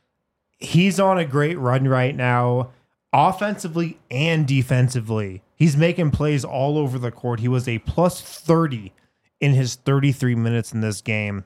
B: He's on a great run right now, offensively and defensively. He's making plays all over the court. He was a plus thirty in his thirty-three minutes in this game.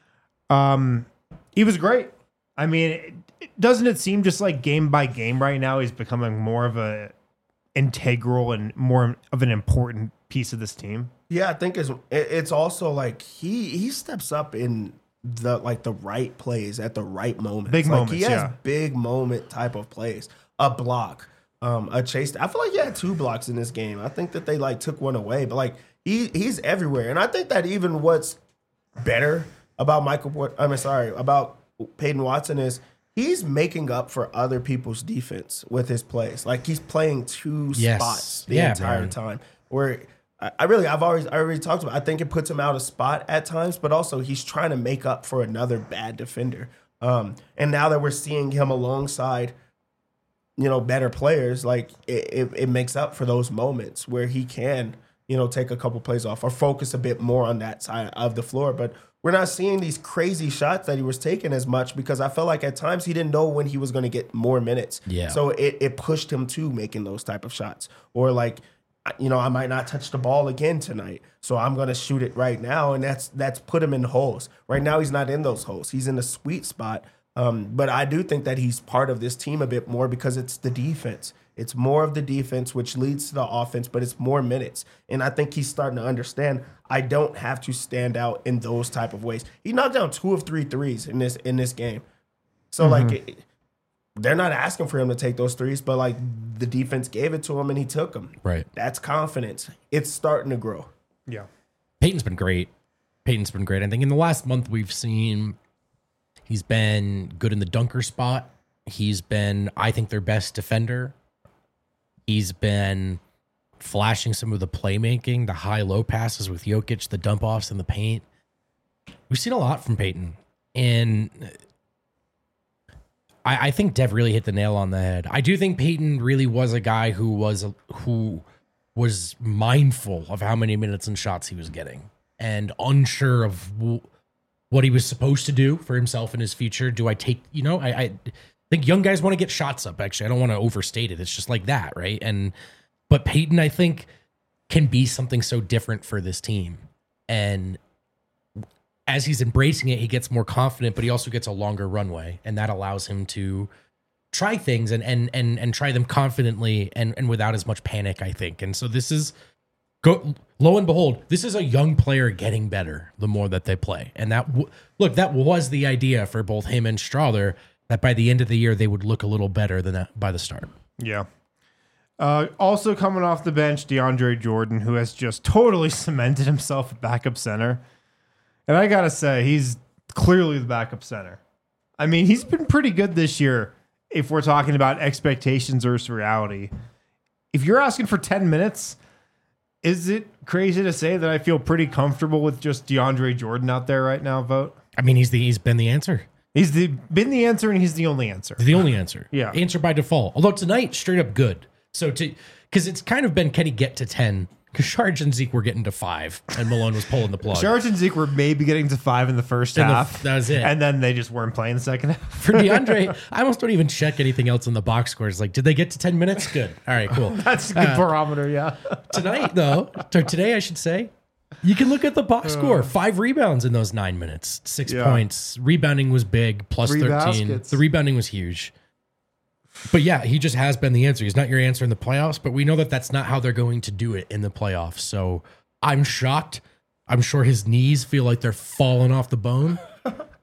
B: Um, he was great. I mean, it, it, doesn't it seem just like game by game right now, he's becoming more of a integral and more of an important piece of this team?
A: Yeah, I think it's it's also like he he steps up in the like the right plays at the right moments.
B: Big
A: like
B: moments,
A: he has
B: yeah.
A: big moment type of plays. A block, um, a chase. I feel like he had two blocks in this game. I think that they like took one away, but like he he's everywhere. And I think that even what's better about Michael, I'm sorry about Peyton Watson is he's making up for other people's defense with his plays. Like he's playing two
C: Yes.
A: spots the
C: Yeah,
A: entire
C: man.
A: time. Where I, I really, I've always, I already talked about. I think it puts him out of spot at times, but also he's trying to make up for another bad defender. Um, and now that we're seeing him alongside, you know, better players, like it, it, it makes up for those moments where he can, you know, take a couple plays off or focus a bit more on that side of the floor. But we're not seeing these crazy shots that he was taking as much because I felt like at times he didn't know when he was going to get more minutes.
C: Yeah.
A: So it, it pushed him to making those type of shots. Or like, you know, I might not touch the ball again tonight, so I'm going to shoot it right now. And that's that's put him in holes. Right now he's not in those holes. He's in a sweet spot. Um, but I do think that he's part of this team a bit more because it's the defense. It's more of the defense, which leads to the offense, but it's more minutes. And I think he's starting to understand I don't have to stand out in those type of ways. He knocked down two of three threes in this in this game. So,
B: Mm-hmm.
A: like, it, they're not asking for him to take those threes, but, like, the defense gave it to him and he took them.
C: Right.
A: That's confidence. It's starting to grow.
B: Yeah.
C: Peyton's been great. Peyton's been great. I think in the last month we've seen he's been good in the dunker spot. He's been, I think, their best defender. He's been flashing some of the playmaking, the high-low passes with Jokic, the dump-offs in the paint. We've seen a lot from Peyton. And I, I think Dev really hit the nail on the head. I do think Peyton really was a guy who was who was mindful of how many minutes and shots he was getting and unsure of w- what he was supposed to do for himself in his future. Do I take, you know, I, I think young guys want to get shots up, actually. I don't want to overstate it. It's just like that, right? And but Peyton, I think, can be something so different for this team. And as he's embracing it, he gets more confident, but he also gets a longer runway, and that allows him to try things and and and and try them confidently and and without as much panic, I think. And so this is go lo and behold, this is a young player getting better the more that they play. And that w- look, that was the idea for both him and Strother, that by the end of the year they would look a little better than that by the start.
B: Yeah. Uh, also coming off the bench, DeAndre Jordan, who has just totally cemented himself at backup center. And I got to say, he's clearly the backup center. I mean, he's been pretty good this year if we're talking about expectations versus reality. If you're asking for ten minutes, is it crazy to say that I feel pretty comfortable with just DeAndre Jordan out there right now, Vote?
C: I mean, he's the he's been the answer.
B: He's the been the answer, and he's the only answer.
C: The only answer.
B: Yeah.
C: Answer by default. Although tonight, straight up good. So to because it's kind of been, can he get to ten? Because Sharge and Zeke were getting to five, and Malone was pulling the plug.
B: Sharge and Zeke were maybe getting to five in the first
C: In the-
B: half.
C: that was it.
B: And then they just weren't playing the second half.
C: For DeAndre, I almost don't even check anything else in the box scores. Like, did they get to ten minutes? Good. All right, cool.
B: That's a good barometer, yeah.
C: Tonight, though, or today, I should say, you can look at the box score. Five rebounds in those nine minutes, six
B: Yeah.
C: points. Rebounding was big, plus
B: Three
C: thirteen.
B: baskets.
C: The rebounding was huge. But yeah, he just has been the answer. He's not your answer in the playoffs, but we know that that's not how they're going to do it in the playoffs. So I'm shocked. I'm sure his knees feel like they're falling off the bone.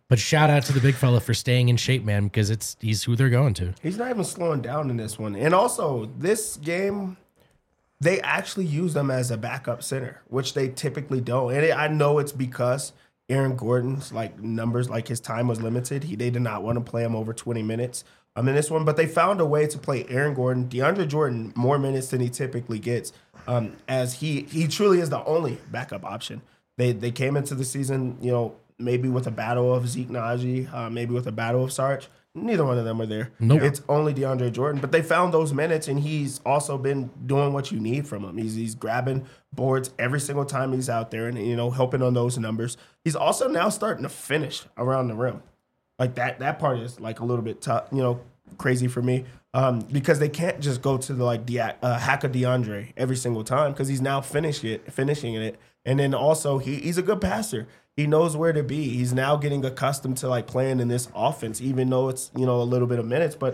C: But shout out to the big fella for staying in shape, man, because it's he's who they're going to.
A: He's not even slowing down in this one. And also, this game, they actually use him as a backup center, which they typically don't. And I know it's because Aaron Gordon's like numbers, like his time was limited. He they did not want to play him over twenty minutes. Um, in this one, but they found a way to play Aaron Gordon, DeAndre Jordan, more minutes than he typically gets, um, as he he truly is the only backup option. They they came into the season, you know, maybe with a battle of Zeke Naji, uh, maybe with a battle of Sarge. Neither one of them were there.
C: Nope.
A: It's only DeAndre Jordan, but they found those minutes, and he's also been doing what you need from him. He's he's grabbing boards every single time he's out there, and you know, helping on those numbers. He's also now starting to finish around the rim. Like that that part is like a little bit tough, you know, crazy for me, um, because they can't just go to the like the uh, hack of DeAndre every single time because he's now finished it, finishing it, and then also he, he's a good passer. He knows where to be. He's now getting accustomed to like playing in this offense, even though it's you know a little bit of minutes, but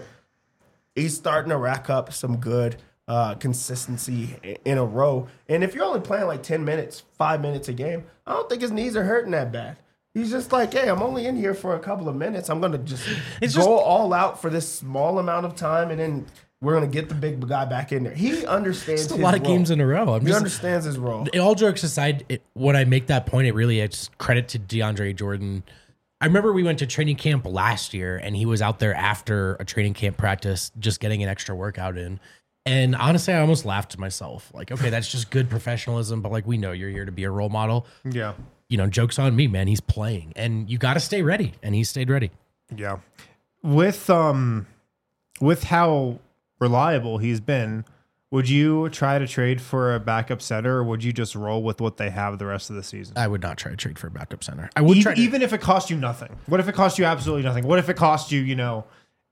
A: he's starting to rack up some good uh, consistency in a row. And if you're only playing like ten minutes, five minutes a game, I don't think his knees are hurting that bad. He's just like, hey, I'm only in here for a couple of minutes. I'm going to just
C: It's
A: go
C: just-
A: all out for this small amount of time, and then we're going to get the big guy back in there. He understands
C: It's a
A: his
C: lot of
A: role.
C: games in a row. I'm
A: He
C: just,
A: understands his role.
C: all jokes aside, it, when I make that point, it really it's credit to DeAndre Jordan. I remember we went to training camp last year, and he was out there after a training camp practice, just getting an extra workout in. And honestly, I almost laughed to myself. Like, okay, that's just good professionalism, but like we know you're here to be a role model.
B: Yeah.
C: You know, joke's on me, man. He's playing, and you got to stay ready, and he stayed ready.
B: Yeah. With um with how reliable he's been, would you try to trade for a backup center, or would you just roll with what they have the rest of the season?
C: I would not try to trade for a backup center. I would
B: even,
C: try to,
B: even if it cost you nothing. What if it cost you absolutely nothing? What if it cost you, you know,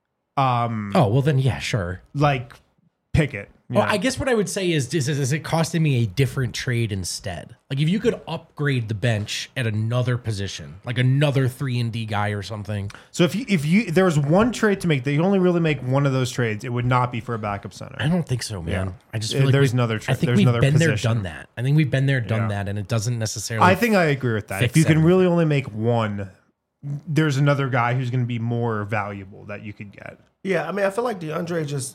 B: um
C: Oh, well then, yeah, sure.
B: like Pickett? you
C: Well,
B: know?
C: I guess what I would say is, is, is it costing me a different trade instead? Like if you could upgrade the bench at another position, like another three and D guy or something.
B: So if you if you there was one trade to make, that you only really make one of those trades, it would not be for a backup center.
C: I don't think so, man.
B: Yeah.
C: I just
B: Uh,
C: feel like
B: there's
C: we-
B: another tra-
C: I think
B: there's
C: we've
B: another
C: been there,
B: position.
C: done that. I think we've been there, done
B: Yeah.
C: that, and it doesn't necessarily.
B: I think I agree with that.
C: fix
B: If you can
C: everything.
B: really only make one, there's another guy who's going to be more valuable that you could get.
A: Yeah, I mean, I feel like DeAndre just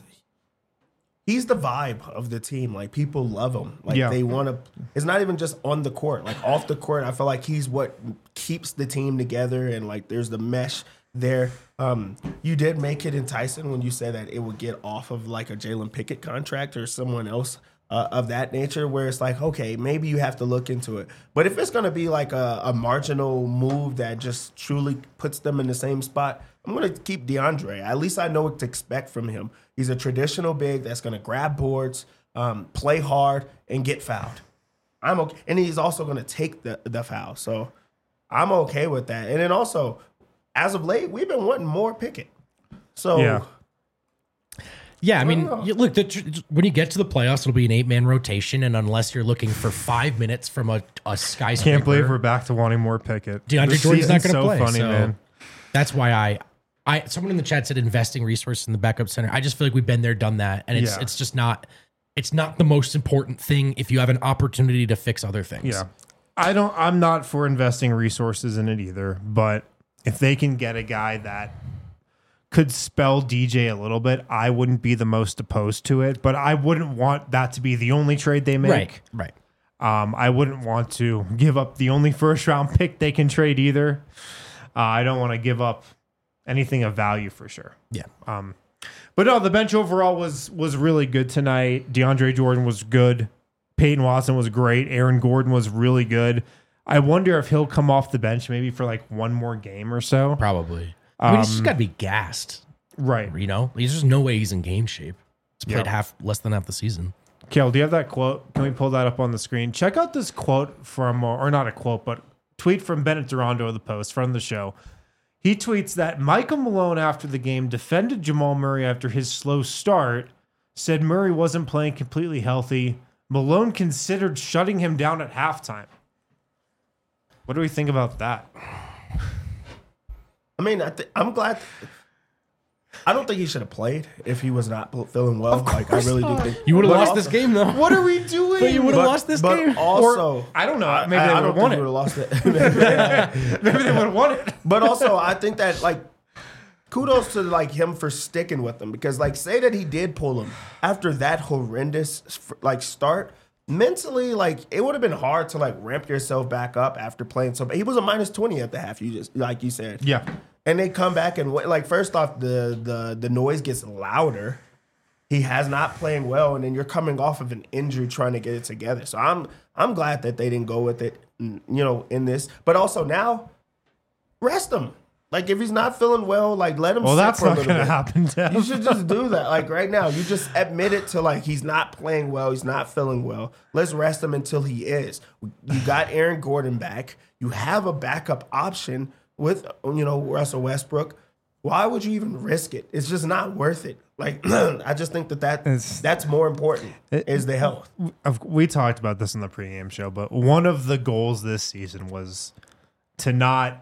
A: he's the vibe of the team. Like people love him. Like
B: Yeah.
A: they want to. It's not even just on the court. Like off the court, I feel like he's what keeps the team together. And like there's the mesh there. Um, you did make it enticing when you said that it would get off of like a Jalen Pickett contract or someone else uh, of that nature, where it's like, okay, maybe you have to look into it. But if it's going to be like a, a marginal move that just truly puts them in the same spot, I'm going to keep DeAndre. At least I know what to expect from him. He's a traditional big that's going to grab boards, um, play hard, and get fouled. I'm okay. And he's also going to take the, the foul. So I'm okay with that. And then also, as of late, we've been wanting more Pickett. So
B: Yeah.
C: Yeah, I mean,
A: know.
C: you- look, the, tr- when you get to the playoffs, it'll be an eight-man rotation, and unless you're looking for five minutes from a, a skyscraper,
B: Can't believe we're back to wanting more Pickett.
C: DeAndre
B: This
C: Jordan's not
B: season's
C: going to
B: so
C: play.
B: funny,
C: so
B: man.
C: That's why I, I. Someone in the chat said investing resources in the backup center. I just feel like we've been there, done that, and it's
B: Yeah.
C: it's just not. It's not the most important thing if you have an opportunity to fix other things.
B: Yeah. I don't I'm not for investing resources in it either, but if they can get a guy that could spell D J a little bit, I wouldn't be the most opposed to it, but I wouldn't want that to be the only trade they make.
C: Right. Right.
B: Um, I wouldn't want to give up the only first round pick they can trade either. Uh, I don't want to give up anything of value for sure.
C: Yeah.
B: Um, but no, the bench overall was was really good tonight. DeAndre Jordan was good. Peyton Watson was great. Aaron Gordon was really good. I wonder if he'll come off the bench maybe for like one more game or so.
C: Probably. I mean, he's just
B: Um,
C: got to be gassed.
B: Right.
C: You know, there's just no way he's in game shape. He's played
B: Yeah.
C: half, less than half the season.
B: Kale, do you have that quote? Can we pull that up on the screen? Check out this quote from, or not a quote, but tweet from Bennett Durando of the Post, friend of the show. He tweets that Michael Malone after the game defended Jamal Murray after his slow start, said Murray wasn't playing completely healthy. Malone considered shutting him down at halftime. What do we think about that?
A: I mean, I th- I'm glad. I don't think he should have played if he was not feeling well. Like I really do think
C: You would have
A: But
C: lost
A: also-
C: this game though.
B: What are we doing?
C: But you would have
A: But,
C: lost this
A: but
C: game.
A: also,
B: Or- I don't know. Maybe
A: I,
B: they
A: I
B: would have
A: don't
B: won
A: think
B: it.
A: we would have lost it.
B: Maybe they would have won it.
A: But also, I think that like kudos to like him for sticking with them because like say that he did pull him after that horrendous like start. Mentally, like it would have been hard to like ramp yourself back up after playing so. He was a minus twenty at the half. You just like you said,
B: Yeah.
A: And they come back and like first off, the the the noise gets louder. He has not playing well, and then you're coming off of an injury trying to get it together. So I'm I'm glad that they didn't go with it, you know, in this. But also now, rest him. Like if he's not feeling well, like let him.
B: Well,
A: sit
B: that's
A: for a
B: not
A: little
B: going to
A: bit.
B: happen, Dev.
A: You should just do that. Like right now, you just admit it to like he's not playing well, he's not feeling well. Let's rest him until he is. You got Aaron Gordon back. You have a backup option with you know Russell Westbrook. Why would you even risk it? It's just not worth it. Like I just think that, that
B: It's-
A: that's more important is the health.
B: Of- We talked about this in the pregame show, but one of the goals this season was to not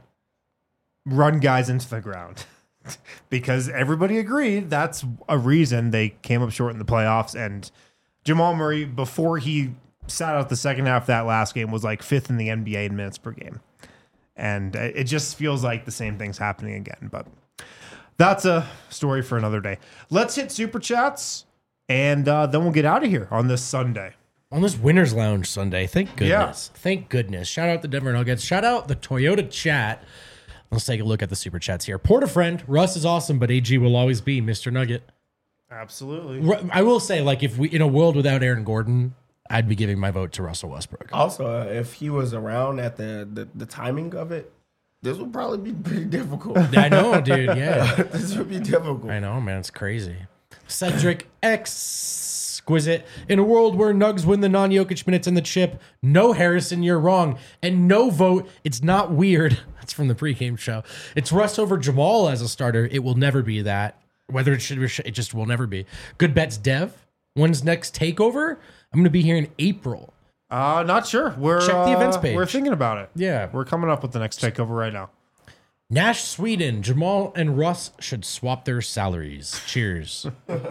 B: run guys into the ground because everybody agreed that's a reason they came up short in the playoffs. And Jamal Murray, before he sat out the second half of that last game, was like fifth in the N B A in minutes per game. And it just feels like the same thing's happening again. But that's a story for another day. Let's hit Super Chats, and uh, then we'll get out of here on this Sunday.
C: On this Winners Lounge Sunday. Thank
B: Yeah.
C: goodness. Thank goodness. Shout out the Denver Nuggets. Shout out the Toyota chat. Let's take a look at the Super Chats here. Porter friend, Russ is awesome, but A G will always be Mister Nugget.
B: Absolutely.
C: Ru- I will say, like, if we in a world without Aaron Gordon, I'd be giving my vote to Russell Westbrook.
A: Also, uh, if he was around at the, the the timing of it, this would probably be pretty difficult.
C: I know, dude. Yeah.
A: This would be difficult.
C: I know, man. It's crazy. Cedric Exquisite. In a world where Nugs win the non-Jokic minutes and the chip, no Harrison, you're wrong. And no vote, it's not weird. That's from the pregame show. It's Russ over Jamal as a starter. It will never be that. Whether it should be, it just will never be. Good bets, Dev. When's next takeover? I'm going to be here in April.
B: Uh, not sure. We're
C: Check the events
B: uh,
C: page.
B: We're thinking about it.
C: Yeah.
B: We're coming up with the next takeover right now.
C: Nash, Sweden. Jamal and Russ should swap their salaries. Cheers.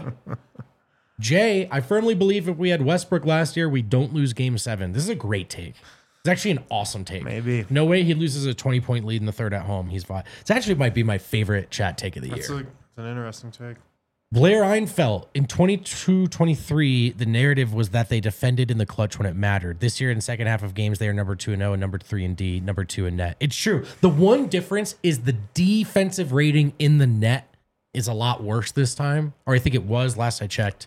C: Jay, I firmly believe if we had Westbrook last year, we don't lose game seven. This is a great take. It's actually an awesome take.
B: Maybe.
C: No way he loses a twenty-point lead in the third at home. He's fine. It actually might be my favorite chat take of the
B: That's
C: year.
B: a, it's an interesting take.
C: Blair Einfeld, in twenty-two twenty-three, the narrative was that they defended in the clutch when it mattered. This year, in the second half of games, they are number two and oh, and number three in D, number two in net. It's true. The one difference is the defensive rating in the net is a lot worse this time, or I think it was last I checked.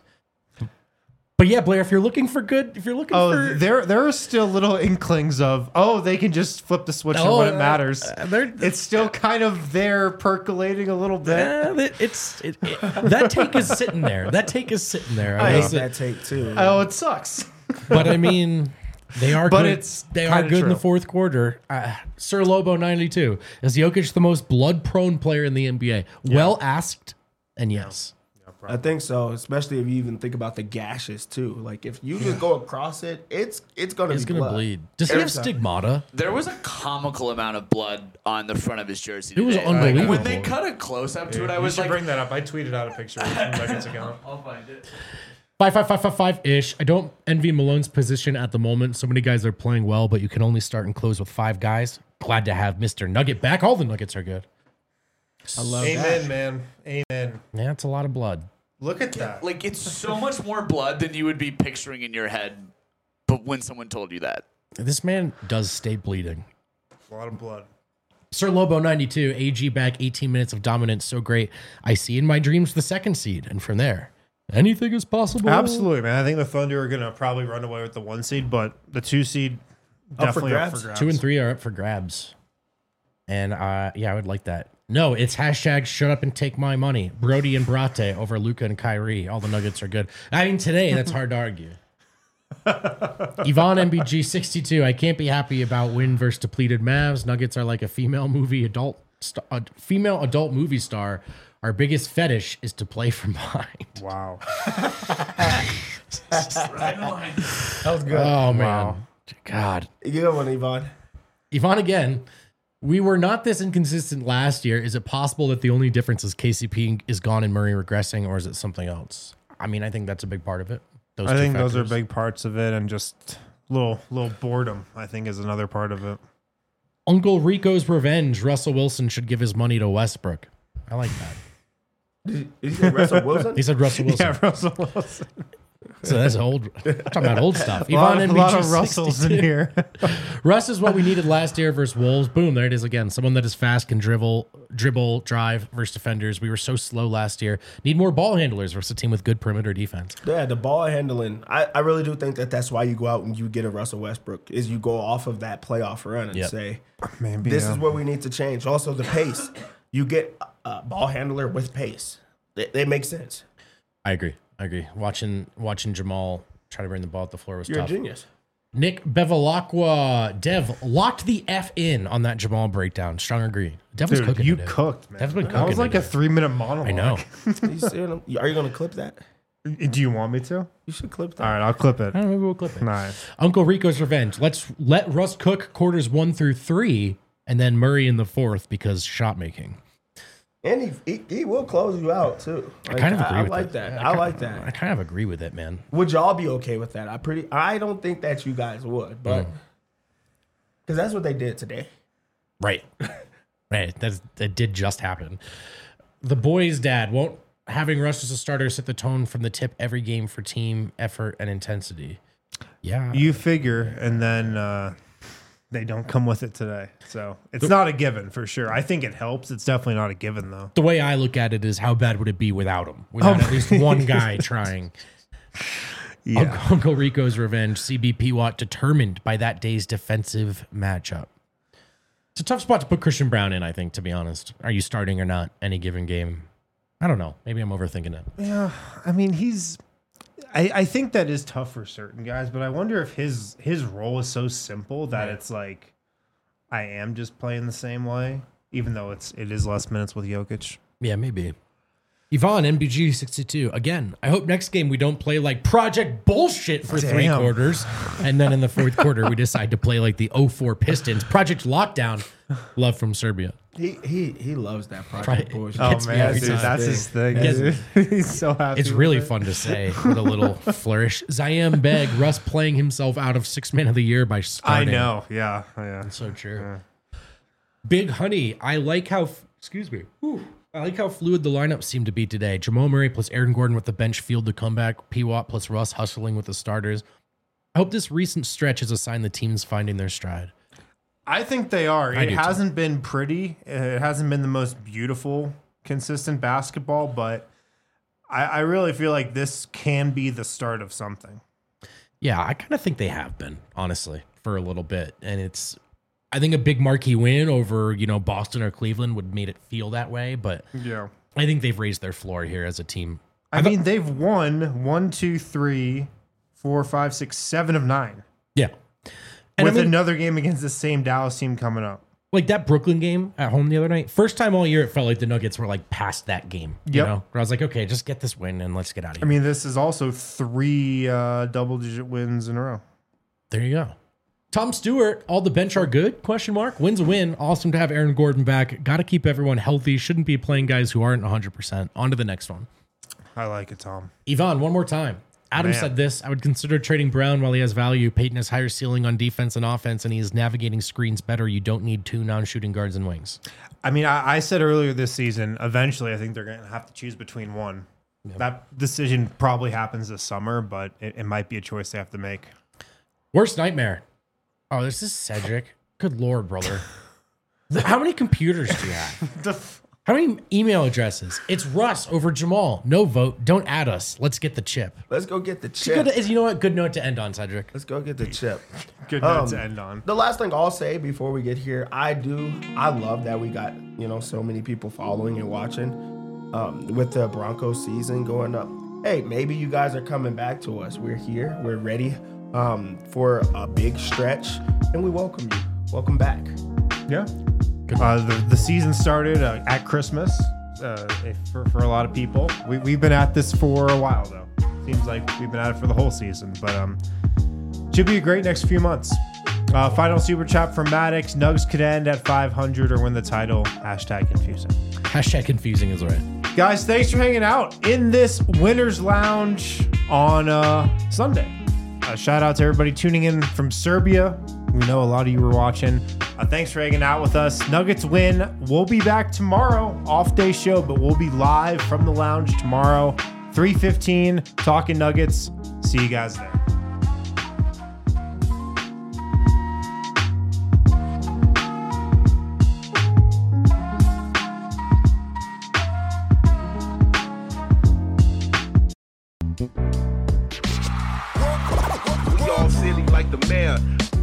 C: But yeah, Blair, if you're looking for good, if you're looking
B: Oh,
C: for
B: there there are still little inklings of, oh, they can just flip the switch
C: Oh,
B: when it
C: uh,
B: matters.
C: uh, they're-
B: It's still kind of there percolating a little bit.
C: Eh, it- it's it, it- that take is sitting there. That take is sitting there.
A: I
C: will
A: hate
C: say-
A: that take too.
B: Oh, it sucks.
C: But I mean, they are
B: But
C: good.
B: it's
C: they are
B: kinda
C: good in the
B: true.
C: fourth quarter. Uh, Sir Lobo ninety-two, is Jokic the most blood prone player in the N B A? Well asked, and yes.
A: I think so, especially if you even think about the gashes too. Like if you just go across it, it's it's gonna
C: He's
A: be
C: gonna
A: blood.
C: bleed. Does he
A: Every
C: have
A: time.
C: stigmata?
D: There was a comical amount of blood on the front of his jersey.
C: It was
D: today.
C: unbelievable.
D: When they cut a close up to it, I
B: You
D: was
B: should
D: like,
B: bring that up. I tweeted out a picture from Nuggets account.
D: I'll find it.
C: Five, five, five, five, five ish. I don't envy Malone's position at the moment. So many guys are playing well, but you can only start and close with five guys. Glad to have Mister Nugget back. All the Nuggets are good.
A: I love
B: Amen,
A: that.
B: man. Amen.
C: Yeah, it's a lot of blood.
B: Look at that.
D: Like it's so much more blood than you would be picturing in your head. But when someone told you that,
C: This man does stay bleeding.
B: A lot of blood.
C: Sir Lobo ninety-two, A G back, eighteen minutes of dominance, so great. I see in my dreams the second seed, and from there, anything is possible.
B: Absolutely, man. I think the Thunder are going to probably run away with the one seed, but the two seed
A: Up for
B: definitely up for
A: grabs.
B: grabs.
C: Two and three are up for grabs. And uh, yeah, I would like that. No, it's hashtag shut up and take my money. Brody and Brate over Luca and Kyrie. All the Nuggets are good. I mean, today, that's hard to argue. Yvonne M B G sixty-two. I can't be happy about win versus depleted Mavs. Nuggets are like a female movie adult, st- a female adult movie star. Our biggest fetish is to play from behind.
B: Wow.
A: That was good.
C: Oh man,
B: Wow.
C: God.
A: Good one, Yvonne.
C: Yvonne again. We were not this inconsistent last year. Is it possible that the only difference is K C P is gone and Murray regressing, or is it something else? I mean, I think that's a big part of it. Those
B: I
C: two
B: think
C: factors.
B: those are big parts of it, and just little little boredom, I think, is another part of it.
C: Uncle Rico's revenge. Russell Wilson should give his money to Westbrook. I like that.
A: Did you say Russell Wilson?
C: He said Russell Wilson.
B: Yeah, Russell Wilson.
C: So that's old. I'm talking about old stuff.
B: A lot,
C: Yvonne
B: a lot of
C: M B G
B: Russells in
C: sixty-two.
B: here.
C: Russ is what we needed last year versus Wolves. Boom, there it is again. Someone that is fast, can dribble, dribble, drive versus defenders. We were so slow last year. Need more ball handlers versus a team with good perimeter defense.
A: Yeah, the ball handling. I, I really do think that that's why you go out and you get a Russell Westbrook, is you go off of that playoff run and
C: Yep.
A: say,
B: Maybe,
A: this
B: yeah.
A: is what we need to change. Also, the pace. You get a ball handler with pace. It, it makes sense.
C: I agree. I agree. Watching watching Jamal try to bring the ball at the floor was
A: You're
C: tough.
A: a genius.
C: Nick Bevilacqua, Dev locked the F in on that Jamal breakdown. Strong agree. Dev was
B: Dude,
C: cooking.
B: you
C: today.
B: cooked, man.
C: Dev's been
B: That
C: cooking
B: was like
C: today.
B: a three minute monologue.
C: I know.
A: You see what I'm- are you going to clip that?
B: Do you want me to? All
A: You should clip that.
B: right, I'll clip it.
C: I don't know, maybe we'll clip it.
B: Nice.
C: Uncle Rico's revenge. Let's let Russ cook quarters one through three, and then Murray in the fourth because shot making.
A: And he, he he will close you out too.
C: I kind of
A: Like,
C: agree
A: I,
C: with
A: I like
C: it.
A: that.
C: Yeah,
A: I,
C: kind-
A: like
C: I
A: that.
C: kind of agree with it, man.
A: Would y'all be okay with that? I pretty. I don't think that you guys would, but
C: Mm.
A: because that's what they did today.
C: Right. Right. That's, that did just happen. The boys' dad won't having Russ as a starter set the tone from the tip every game for team effort and intensity. Yeah.
B: You figure, and then uh, they don't come with it today. So it's not a given for sure. I think it helps. It's definitely not a given, though.
C: the way I look at it is how bad would it be without him? Without at least one guy trying.
B: Yeah.
C: Uncle, Uncle Rico's revenge. C B P Watt determined by that day's defensive matchup. It's a tough spot to put Christian Brown in, I think, to be honest. Are you starting or not any given game? I don't know. Maybe I'm overthinking it.
B: Yeah, I mean, he's. I, I think that is tough for certain guys, but I wonder if his his role is so simple that
C: Right.
B: it's like, I am just playing the same way, even though it's it is less minutes with Jokic.
C: Yeah, maybe. Yvonne, N B G sixty-two. Again, I hope next game we don't play like project bullshit for three
B: Damn.
C: quarters. And then in the fourth quarter, we decide to play like the oh four Pistons. Project Lockdown. Love from Serbia.
A: He he he loves that project
C: Right.
A: bullshit.
C: Oh, Gets me every
B: dude,
C: time.
B: that's his thing.
C: Gets-
B: dude. He's so happy.
C: It's
B: with
C: really
B: it.
C: fun to say with a little flourish. Zayem Beg, Russ playing himself out of six man of the year by
B: I
C: starting.
B: know. Yeah. Yeah.
C: So true. Big Honey, I like how, excuse me, Whew. I like how fluid the lineup seemed to be today. Jamal Murray plus Aaron Gordon with the bench field to comeback. P. Watt plus Russ hustling with the starters. I hope this recent stretch is a sign the team's finding their stride.
B: I think they are.
C: I
B: It
C: do too.
B: hasn't been pretty. It hasn't been the most beautiful, consistent basketball, but I, I really feel like this can be the start of something.
C: Yeah, I kind of think they have been, honestly, for a little bit. And it's, I think a big marquee win over, you know, Boston or Cleveland would made it feel that way. But
B: Yeah.
C: I think they've raised their floor here as a team.
B: I mean, they've won one, two, three, four, five, six, seven of nine.
C: Yeah. And
B: with
C: I mean,
B: another game against the same Dallas team coming up.
C: like that Brooklyn game at home the other night, first time all year it felt like the Nuggets were like past that game. You
B: Yep.
C: know, where I was like, okay, just get this win and let's get out of
B: I
C: here.
B: mean, this is also three uh, double-digit wins in a row.
C: There you go. Tom Stewart, all the bench are good? Question mark. Wins a win. Awesome to have Aaron Gordon back. Got to keep everyone healthy. Shouldn't be playing guys who aren't one hundred percent. On to the next one.
B: I like it, Tom.
C: Yvonne, one more time. Adam
B: Man.
C: said this. I would consider trading Brown while he has value. Peyton has higher ceiling on defense and offense, and he is navigating screens better. You don't need two non-shooting guards and wings.
B: I mean, I, I said earlier this season, eventually I think they're going to have to choose between one. That decision probably happens this summer, but it, it might be a choice they have to make.
C: Worst nightmare. Oh, this is Cedric. Good Lord, brother. How many computers do you have? How many email addresses? It's Russ over Jamal. No vote. Don't add us. Let's get the chip.
A: Let's go get the
C: Good,
A: chip.
C: is- you know what? Good note to end on, Cedric.
A: Let's go get the chip.
B: Good note
A: Um,
B: to end on.
A: The last thing I'll say before we get here, I do, I love that we got, you know, so many people following and watching um, with the Broncos season going up. Hey, maybe you guys are coming back to us. We're here. We're ready um, for a big stretch, and we welcome you. Welcome back.
B: Yeah. Uh, the, the season started uh, at Christmas uh, if- for, for a lot of people. We, we've been at this for a while, though. Seems like we've been at it for the whole season, but um, should be a great next few months. Uh, final super chat from Maddox. Nugs could end at five hundred or win the title. Hashtag confusing.
C: Hashtag confusing is right.
B: Guys, thanks for hanging out in this Winners Lounge on uh, Sunday. Uh, shout out to everybody tuning in from Serbia. We know a lot of you were watching. Uh, thanks for hanging out with us. Nuggets win. We'll be back tomorrow. Off day show, but we'll be live from the lounge tomorrow. three fifteen, talking Nuggets. See you guys there.
E: We all silly like the mayor.